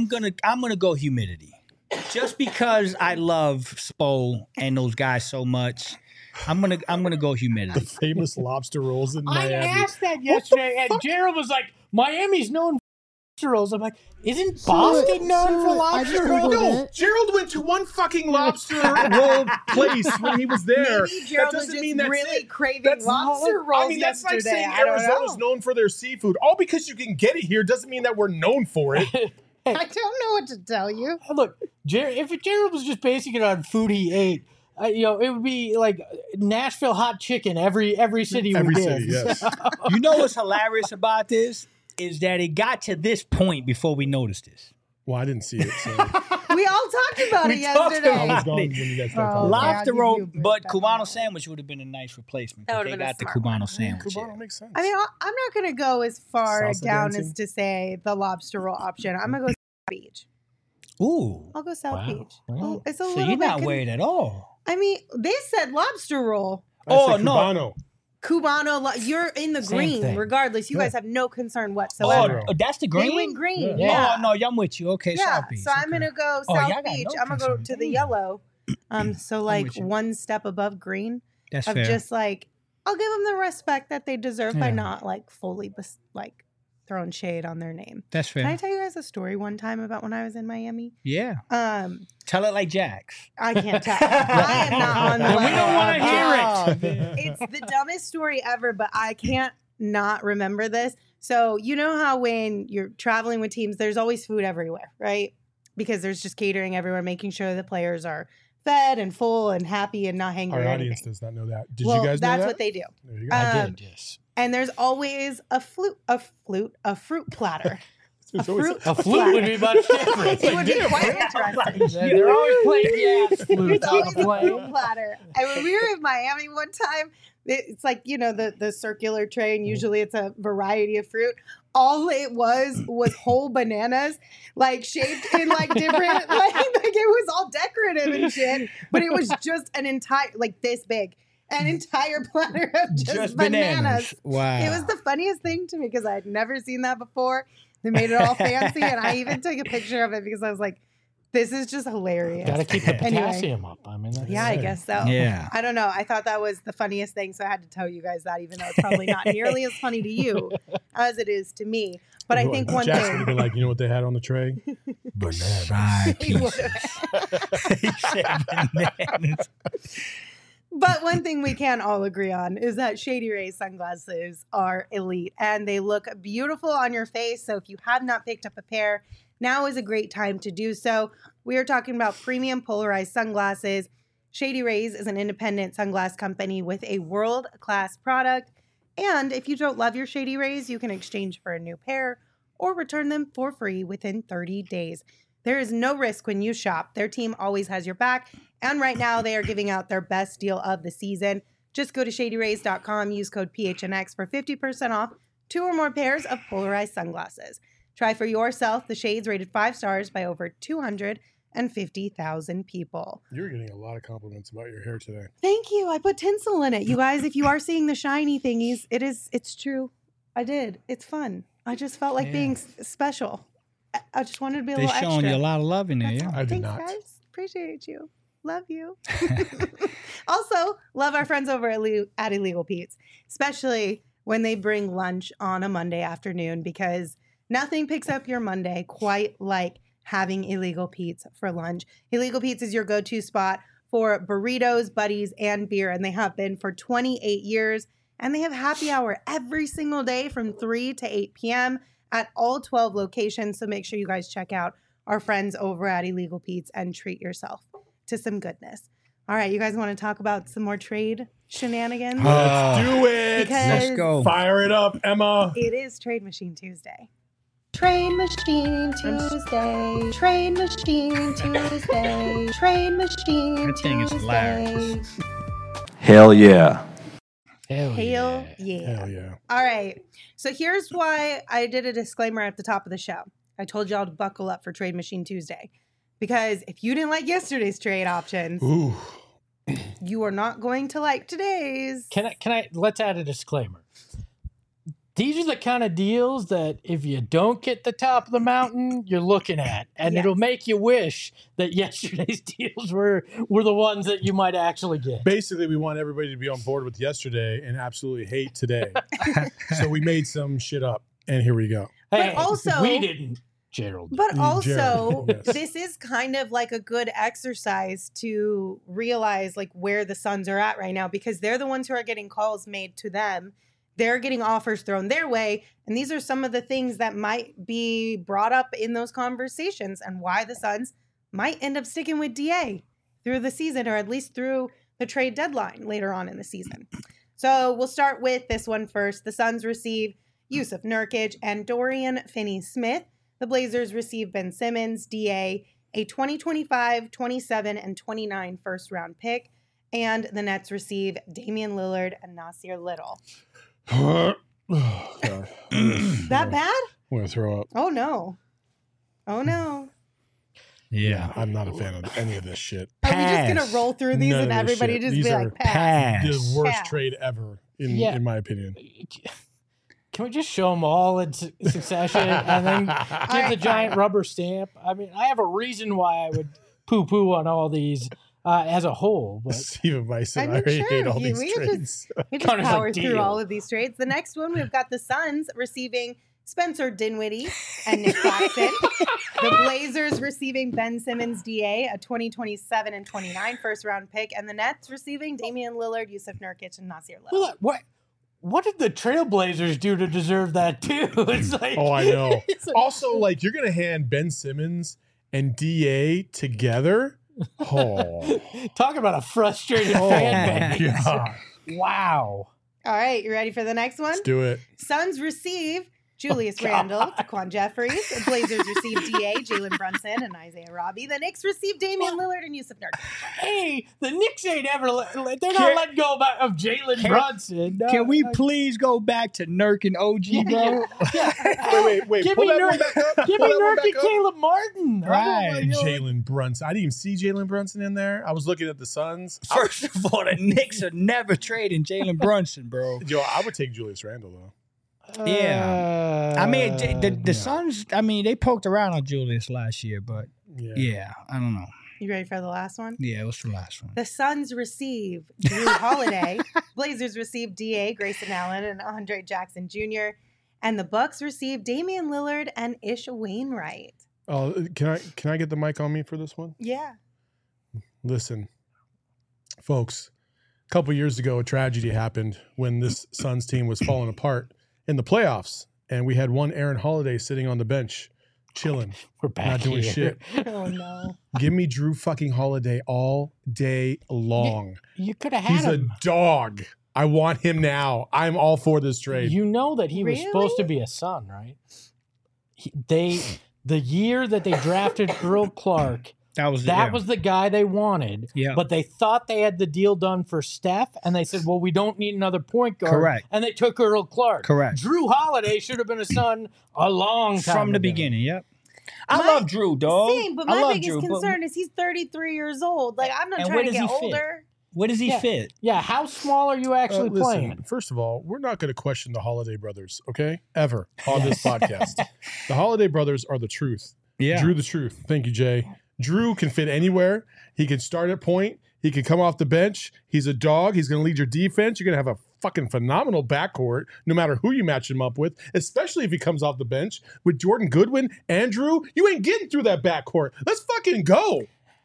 I'm gonna go humidity, just because I love Spo and those guys so much. I'm gonna go humidity. The famous lobster rolls in Miami. I asked that yesterday, and Gerald was like, "Miami's known for lobster rolls." I'm like, "Isn't Boston known for lobster rolls?" No, Gerald went to one fucking lobster roll place when he was there. Maybe Gerald was just really craving lobster rolls. I mean, that's like saying Arizona's known for their seafood. All because you can get it here doesn't mean that we're known for it. I don't know what to tell you. Look, if Gerald was just basing it on food he ate, it would be like Nashville hot chicken every city. Every city, yes. You know what's hilarious about this is that it got to this point before we noticed this. Well, I didn't see it. So. We all talked about it yesterday. I was gone when you guys started talking. Lobster roll, but Cubano sandwich would have been a nice replacement. They got the Cubano sandwich. Cubano makes sense. I mean, I'm not going to go as far down as to say the lobster roll option. I'm going to go South Beach. Ooh. I'll go South Beach. Wow. It's a so little you're not worried at all. I mean, they said lobster roll. Cubano. Cubano, you're in the green regardless. You guys have no concern whatsoever. Oh, that's the green? They went green. Yeah. Oh, no, I'm with you. Okay, yeah. South Beach. So I'm going to go South Beach. I'm going to go to the yellow. So like one step above green. That's fair. Just like, I'll give them the respect that they deserve by not like fully throwing shade on their name. That's fair. Can I tell you guys a story one time about when I was in Miami? Yeah. Tell it like Jax. I can't tell. I am not on the level. We don't want to hear it. It's the dumbest story ever, but I can't not remember this. So you know how when you're traveling with teams, there's always food everywhere, right? Because there's just catering everywhere, making sure the players are fed and full and happy and not hangry. Our or audience anything. does not know that. Did you guys know that? That's what they do. There you go. I did, yes. And there's always a fruit platter. A flute would be much different. It would be quite interesting. They're always playing jazz flutes It's on always the a plane. fruit platter. And when we were in Miami one time, it's like, the circular tray, and usually it's a variety of fruit. All it was whole bananas, like shaped in like different, like it was all decorative and shit. But it was just an entire, like this big. An entire platter of just bananas. Wow. It was the funniest thing to me because I had never seen that before. They made it all fancy, and I even took a picture of it because I was like, This is just hilarious. Got to keep the potassium up. I mean, yeah, I guess so. Yeah. I don't know. I thought that was the funniest thing, so I had to tell you guys that, even though it's probably not nearly as funny to you as it is to me. But I think one Jackson thing. would be like, you know what they had on the tray? Banana pieces. He said bananas. But one thing we can all agree on is that Shady Rays sunglasses are elite and they look beautiful on your face. So if you have not picked up a pair, now is a great time to do so. We are talking about premium polarized sunglasses. Shady Rays is an independent sunglass company with a world-class product. And if you don't love your Shady Rays, you can exchange for a new pair or return them for free within 30 days. There is no risk when you shop. Their team always has your back. And right now, they are giving out their best deal of the season. Just go to shadyrays.com, use code PHNX for 50% off 2 or more pairs of polarized sunglasses. Try for yourself the shades rated 5 stars by over 250,000 people. You're getting a lot of compliments about your hair today. Thank you. I put tinsel in it. You guys, if you are seeing the shiny thingies, it's true. I did. It's fun. I just felt like being special. I just wanted to be a little extra. They're showing you a lot of love in there, That's yeah. all. I did Thanks, not. guys. Appreciate you. Love you. Also, love our friends over at Illegal Pete's, especially when they bring lunch on a Monday afternoon, because nothing picks up your Monday quite like having Illegal Pete's for lunch. Illegal Pete's is your go-to spot for burritos, buddies, and beer, and they have been for 28 years. And they have happy hour every single day from 3 to 8 p.m. at all 12 locations. So make sure you guys check out our friends over at Illegal Pete's and treat yourself to some goodness. All right, you guys want to talk about some more trade shenanigans? Let's do it. Because Let's go. Fire it up, Emma. it is Trade Machine Tuesday. Trade Machine Tuesday. Trade Machine Tuesday. Trade Machine That thing is hilarious. Tuesday. Hell yeah. Hell yeah. Hell yeah. All right. So here's why I did a disclaimer at the top of the show. I told y'all to buckle up for Trade Machine Tuesday. Because if you didn't like yesterday's trade options, Ooh. you are not going to like today's. Can I let's add a disclaimer. These are the kind of deals that if you don't get the top of the mountain, you're looking at. And Yes. it'll make you wish that yesterday's deals were the ones that you might actually get. Basically, we want everybody to be on board with yesterday and absolutely hate today. So we made some shit up, and here we go. Hey, also- we didn't, Gerald. But also, Jared, yes. this is kind of like a good exercise to realize like where the Suns are at right now, because they're the ones who are getting calls made to them. They're getting offers thrown their way. And these are some of the things that might be brought up in those conversations and why the Suns might end up sticking with DA through the season, or at least through the trade deadline later on in the season. So we'll start with this one first. The Suns receive Yusuf Nurkic and Dorian Finney-Smith. The Blazers receive Ben Simmons, DA, a 2025, 27, and 29 first-round pick. And the Nets receive Damian Lillard and Nasir Little. Oh, God. That bad? I'm going to throw up. Oh, no. Oh, no. Yeah. I'm not a fan of any of this shit. Are we just going Pass. to roll through these None and of this everybody shit. just These be are like, pass? The worst Pass. trade ever, Yeah. in my opinion. Can we just show them all in succession and then give the giant rubber stamp? I mean, I have a reason why I would poo-poo on all these as a whole. But Stephen Bison, I I, mean, already sure, hate all we these could trades. We just Connor's like, power through deal. all of these trades. The next one, we've got the Suns receiving Spencer Dinwiddie and Nick Claxton. The Blazers receiving Ben Simmons, DA, a 2027 and 29 first-round pick. And the Nets receiving Damian Lillard, Yusuf Nurkic, and Nasir Little. what did the Trailblazers do to deserve that too? It's like, Oh, I know. it's like- Also, like, you're going to hand Ben Simmons and DA together? Oh, talk about a frustrated oh fan my base. God. Wow. All right, you ready for the next one? Let's do it. Suns receive Julius Randle, Taquan Jeffries. The Blazers receive DA, Jalen Brunson, and Isaiah Robbie. The Knicks receive Damian Lillard and Yusuf Nurkic. Hey, the Knicks ain't ever they're not letting go of Jalen Brunson. No, Can we please go back to Nurk and OG, bro? Wait. Give Pull me that one Nurk, back up. give Pull me that one Nurk back and up. Caleb Martin. Right. And Jalen Brunson. I didn't even see Jalen Brunson in there. I was looking at the Suns. First of all, the Knicks are never trading Jalen Brunson, bro. Yo, I would take Julius Randle, though. Yeah. I mean, the Suns, I mean, they poked around on Julius last year, but Yeah, I don't know. You ready for the last one? Yeah, what's the last one? The Suns receive Drew Holiday. Blazers receive D.A. Grayson Allen and Andre Jackson Jr. And the Bucks receive Damian Lillard and Ish Wainwright. Oh, can I get the mic on me for this one? Yeah. Listen, folks, a couple years ago, a tragedy happened when this Suns team was falling apart in the playoffs. And we had one Aaron Holiday sitting on the bench, chilling. We're back not doing here. shit. Oh, no. Give me Drew fucking Holiday all day long. You could have had He's him. a dog. I want him now. I'm all for this trade. You know that he was Really? supposed to be a Sun, right? The year that they drafted Earl Clark, That was the guy they wanted. Yeah. But they thought they had the deal done for Steph, and they said, well, we don't need another point guard. Correct. And they took Earl Clark. Correct. Drew Holiday should have been a Sun a long time from the ago. beginning. Yep. I My- love Drew, dog. Same, but I my love biggest Drew, but concern is he's 33 years old. Like, I'm not And trying where to does get he fit? older. where does he Yeah. fit? Yeah, how small are you actually Listen, playing? first of all, we're not going to question the Holiday brothers, okay? Ever on this podcast. The Holiday brothers are the truth. Yeah. Drew the truth. Thank you, Jay. Drew can fit anywhere. He can start at point. He can come off the bench. He's a dog. He's going to lead your defense. You're going to have a fucking phenomenal backcourt, no matter who you match him up with, especially if he comes off the bench with Jordan Goodwin. Andrew, you ain't getting through that backcourt. Let's fucking go.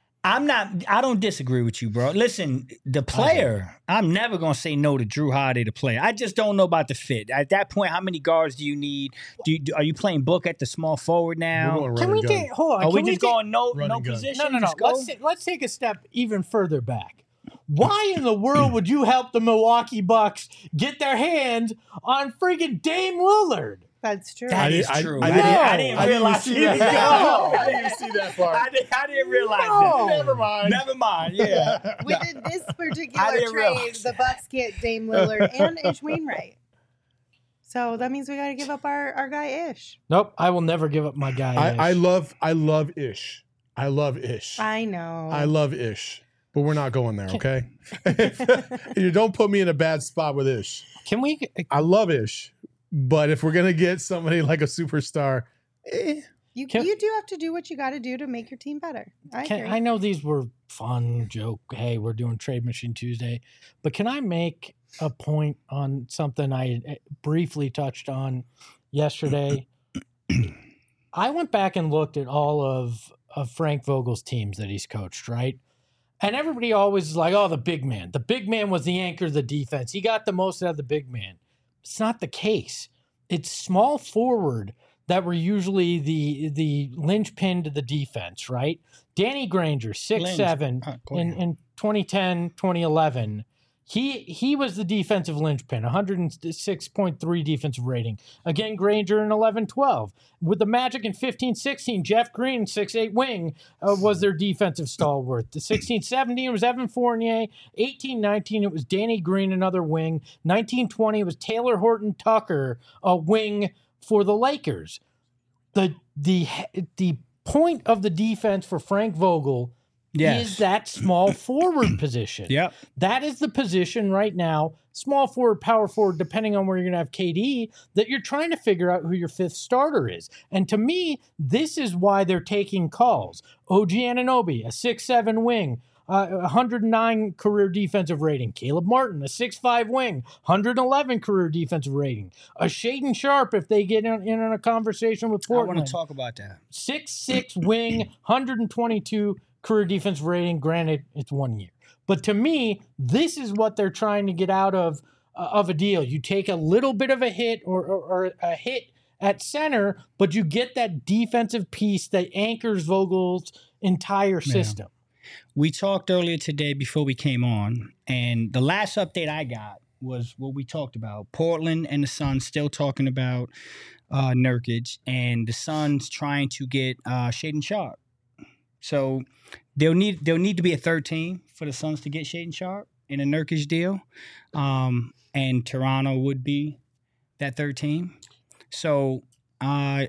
I don't disagree with you, bro. Listen, the player, I'm never going to say no to Drew Holiday, the player. I just don't know about the fit. At that point, how many guards do you need? Are you playing Book at the small forward now? We're going Can run we and gun. take? Hold on. Are we can just take- going no Run and gun. position? No. Just go? Let's take a step even further back. Why in the world would you help the Milwaukee Bucks get their hands on freaking Dame Lillard? That's true. That is I- true. I I didn't- didn't realize see he was that. gone. I didn't even see that part. I didn't realize No. that. Never mind. Never mind. Yeah. Within this I particular didn't trade, realize the Bucks get Dame Lillard and Ish Wainwright. So that means we got to give up our guy Ish. Nope, I will never give up my guy. I love Ish. I love Ish. I know. I love Ish. But we're not going there, okay? You don't put me in a bad spot with Ish. Can we? I love Ish. But if we're gonna get somebody like a superstar, You Can- do have to do what you got to do to make your team better. I agree. I know these were fun joke. Hey, we're doing Trade Machine Tuesday, but can I make a point on something I briefly touched on yesterday? I went back and looked at all of Frank Vogel's teams that he's coached, right? And everybody always is like, oh, the big man. The big man was the anchor of the defense. He got the most out of the big man. It's not the case. It's small forward that were usually the linchpin to the defense, right? Danny Granger, 6'7", in 2010, 2011. He was the defensive linchpin, 106.3 defensive rating. Again, Granger in 11-12. With the Magic in 15-16, Jeff Green, 6'8" wing, was their defensive stalwart. The 16-17 was Evan Fournier. 18-19, it was Danny Green, another wing. 19-20, it was Taylor Horton Tucker, a wing for the Lakers. The point of the defense for Frank Vogel is that small forward position. Yep. That is the position right now, small forward, power forward, depending on where you're going to have KD, that you're trying to figure out who your fifth starter is. And to me, this is why they're taking calls. OG Anunoby, a 6'7" wing, 109 career defensive rating. Caleb Martin, a 6'5" wing, 111 career defensive rating. A Shaedon Sharpe, if they get in on a conversation with I Portland. want to talk about that. 6'6" wing, 122 career defensive rating. Granted, it's 1 year. But to me, this is what they're trying to get out of a deal. You take a little bit of a hit or a hit at center, but you get that defensive piece that anchors Vogel's entire system. We talked earlier today before we came on, and the last update I got was what we talked about. Portland and the Suns still talking about Nurkic, and the Suns trying to get Shaedon Sharpe. So there'll need to be a third team for the Suns to get Shaedon Sharpe in a Nurkic deal, and Toronto would be that third team. So I'm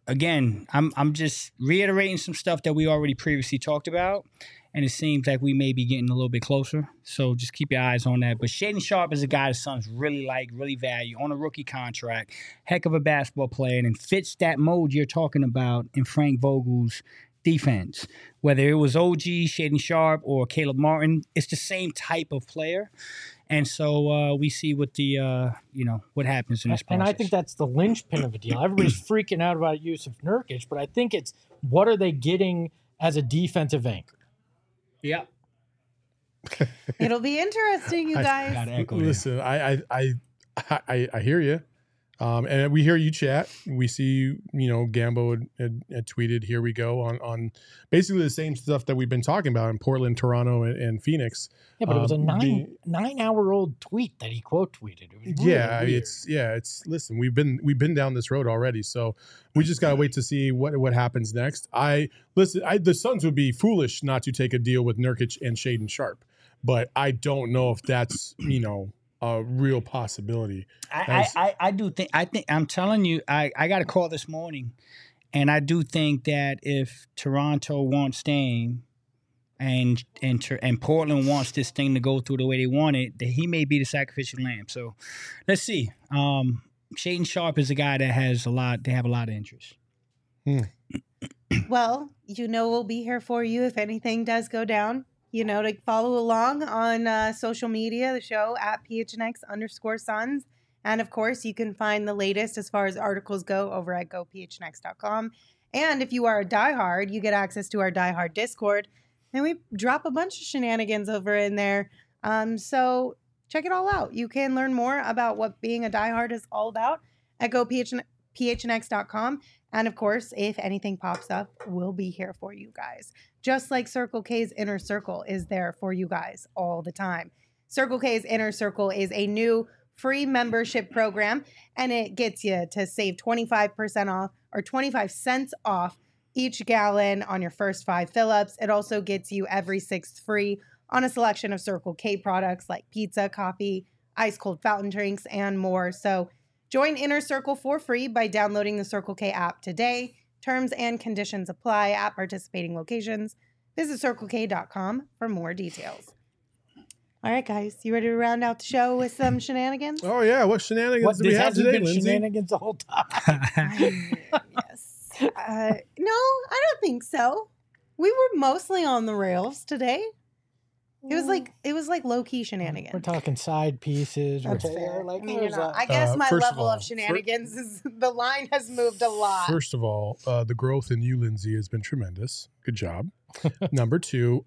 just reiterating some stuff that we already previously talked about, and it seems like we may be getting a little bit closer. So just keep your eyes on that. But Shaedon Sharpe is a guy the Suns really like, really value, on a rookie contract, heck of a basketball player, and fits that mold you're talking about in Frank Vogel's defense. Whether it was OG, Shaedon Sharpe, or Caleb Martin, it's the same type of player. And so we see what the what happens in this process. And I think that's the linchpin of the deal. Everybody's freaking out about Jusuf Nurkic, but I think it's what are they getting as a defensive anchor? Yeah. It'll be interesting, you guys. Listen, I hear you. And we hear you chat. We see, Gambo had tweeted, here we go, on basically the same stuff that we've been talking about in Portland, Toronto, and Phoenix. Yeah, but it was a 9-hour-old tweet that he quote tweeted. It was really weird. Listen, we've been down this road already, so we just gotta wait to see what happens next. The Suns would be foolish not to take a deal with Nurkic and Shaedon Sharpe, but I don't know if that's a real possibility. I do think I'm telling you, I got a call this morning, and I do think that if Toronto wants Dame and Portland wants this thing to go through the way they want it, that he may be the sacrificial lamb. So let's see. Shaedon Sharpe is a guy that they have a lot of interest. Well, we'll be here for you if anything does go down. To follow along on social media, the show at PHNX_Suns. And of course, you can find the latest as far as articles go over at gophnx.com. And if you are a diehard, you get access to our diehard Discord. And we drop a bunch of shenanigans over in there. So check it all out. You can learn more about what being a diehard is all about at gophnx.com. And of course, if anything pops up, we'll be here for you guys. Just like Circle K's Inner Circle is there for you guys all the time. Circle K's Inner Circle is a new free membership program, and it gets you to save 25% off or 25 cents off each gallon on your first 5 fill-ups. It also gets you every 6th free on a selection of Circle K products like pizza, coffee, ice cold fountain drinks, and more. So join Inner Circle for free by downloading the Circle K app today. Terms and conditions apply at participating locations. Visit CircleK.com for more details. All right, guys, you ready to round out the show with some shenanigans? Oh, yeah. What shenanigans do we have today, Lindsay? Shenanigans the whole time. Yes. No, I don't think so. We were mostly on the rails today. It was like low key shenanigans. We're talking side pieces. That's fair. I guess my level of shenanigans is the line has moved a lot. First of all, the growth in you, Lindsay, has been tremendous. Good job. Number 2,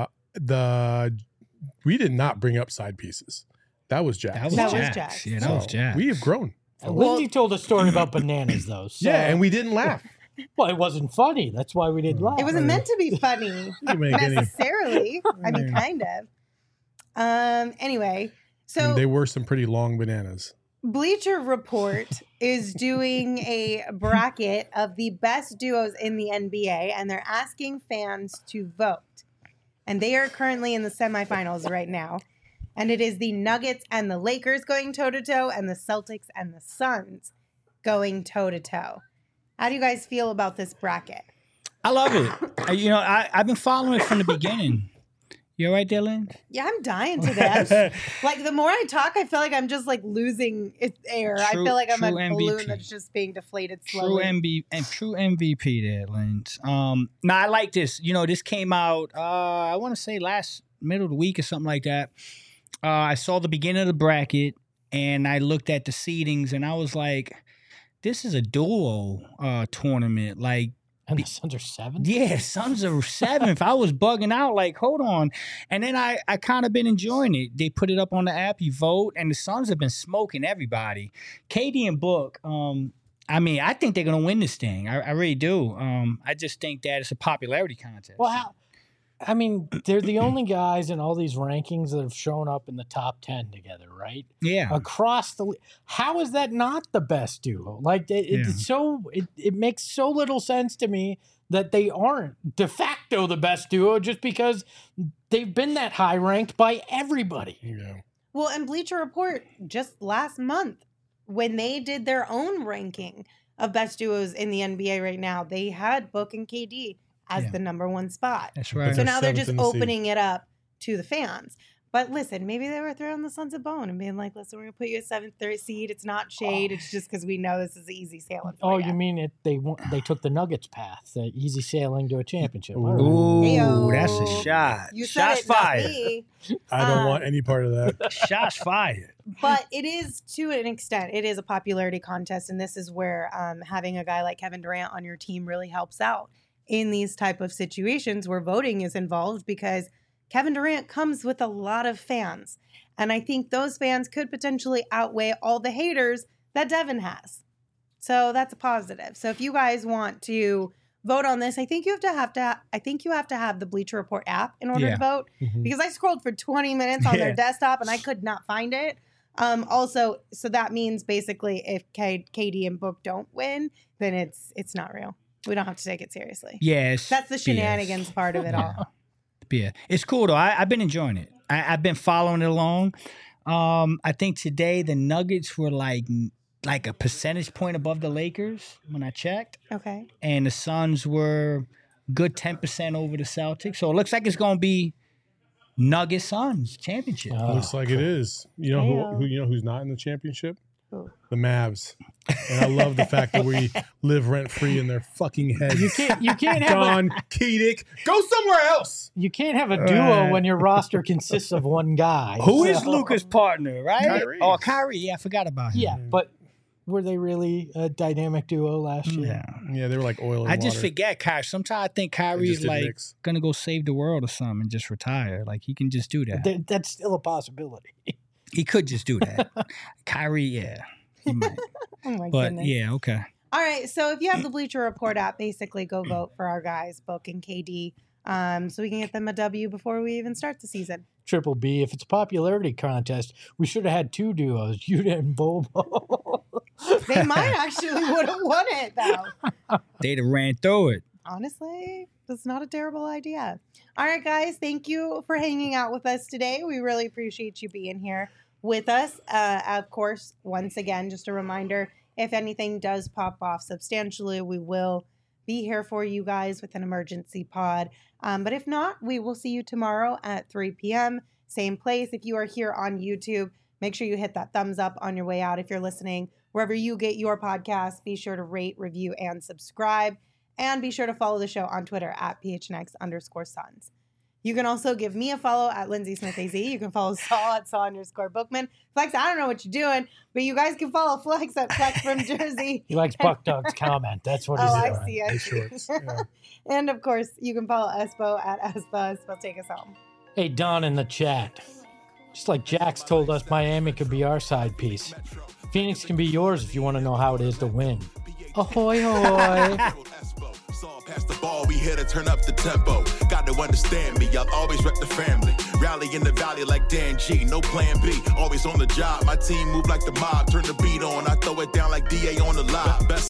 we did not bring up side pieces. That was Jack. That was Jack. Yeah, that was Jack. We have grown. Lindsay told a story about bananas, though. So. Yeah, and we didn't laugh. Well, it wasn't funny. That's why we didn't laugh. It wasn't meant to be funny necessarily. I mean, kind of. Anyway, so they were some pretty long bananas. Bleacher Report is doing a bracket of the best duos in the NBA, and they're asking fans to vote. And they are currently in the semifinals right now. And it is the Nuggets and the Lakers going toe-to-toe, and the Celtics and the Suns going toe-to-toe. How do you guys feel about this bracket? I love it. I've been following it from the beginning. You all right there, Lynn? Yeah, I'm dying to that. Like, the more I talk, I feel like I'm just, like, losing its air. I feel like I'm a balloon that's just being deflated slowly. True MVP there, Lynn. Now, I like this. This came out, I want to say last middle of the week or something like that. I saw the beginning of the bracket, and I looked at the seedings, and I was like, this is a duo tournament. Like, and the Suns are 7th? Yeah, Suns are 7th. I was bugging out, like, hold on. And then I kind of been enjoying it. They put it up on the app, you vote, and the Suns have been smoking everybody. KD and Book, I think they're going to win this thing. I really do. I just think that it's a popularity contest. Well, they're the only guys in all these rankings that have shown up in the top 10 together, right? Yeah. Across the how is that not the best duo? Like it makes so little sense to me that they aren't de facto the best duo just because they've been that high ranked by everybody. Yeah. Well, and Bleacher Report just last month when they did their own ranking of best duos in the NBA right now, they had Book and KD as the number 1 spot. That's right. So now they're just opening it up to the fans. But listen, maybe they were throwing the Suns a bone and being like, listen, we're going to put you at 7th seed. It's not shade. It's just because we know this is easy sailing. Oh, you mean they took the Nuggets path, the easy sailing to a championship. Ooh, Heyo. That's a shot. Shots fired. I don't want any part of that. Shots fired. But it is, to an extent, it is a popularity contest. And this is where having a guy like Kevin Durant on your team really helps out in these type of situations where voting is involved, because Kevin Durant comes with a lot of fans. And I think those fans could potentially outweigh all the haters that Devin has. So that's a positive. So if you guys want to vote on this, I think you have to have the Bleacher Report app in order to vote. Because I scrolled for 20 minutes on their desktop and I could not find it. Also, so that means basically if KD and Book don't win, then it's not real. We don't have to take it seriously. Yes. That's the shenanigans part of it all. Yeah, it's cool though. I've been enjoying it. I've been following it along. I think today the Nuggets were like a percentage point above the Lakers when I checked. Okay. And the Suns were good 10% over the Celtics. So it looks like it's going to be Nuggets Suns championship. Looks like it is. You know who's not in the championship? Who? The Mavs. And I love the fact that we live rent free in their fucking heads. You can't have Don Kedick. Go somewhere else. You can't have a duo when your roster consists of one guy. Who is Luka's partner, right? Kyrie. Oh, Kyrie. Yeah, I forgot about him. Yeah, but were they really a dynamic duo last year? Yeah, they were like oil and I just water. forget Kyrie. Sometimes I think Kyrie is like going to go save the world or something and just retire. Like he can just do that. That's still a possibility. He could just do that. Kyrie, yeah. He might. Oh my goodness. Yeah, okay. All right, so if you have the Bleacher Report app, basically go vote for our guys, Book and KD, so we can get them a W before we even start the season. Triple B, if it's a popularity contest, we should have had two duos, Yuta and Bobo. They might actually would have won it, though. They'd have ran through it. Honestly, that's not a terrible idea. All right, guys, thank you for hanging out with us today. We really appreciate you being here with us. Of course, once again, just a reminder, if anything does pop off substantially, we will be here for you guys with an emergency pod. But if not, we will see you tomorrow at 3 p.m. Same place. If you are here on YouTube, make sure you hit that thumbs up on your way out. If you're listening wherever you get your podcast, be sure to rate, review, and subscribe. And be sure to follow the show on Twitter at PHNX_Suns. You can also give me a follow at Lindsay Smith AZ. You can follow Saul at Saul_Bookman. Flex, I don't know what you're doing, but you guys can follow Flex at Flex from Jersey. He likes Buck Dog's comment. That's what he's doing. I see. Yeah. And of course, you can follow Espo at Espo. Espo, take us home. Hey, Don in the chat. Just like Jax told us Miami could be our side piece, Phoenix can be yours if you want to know how it is to win. Ahoy, hoy. Pass the ball, we here to turn up the tempo. Got to understand me, I'll always rep the family. Rally in the valley like Dan G, no plan B. Always on the job, my team move like the mob. Turn the beat on, I throw it down like DA on the live. Best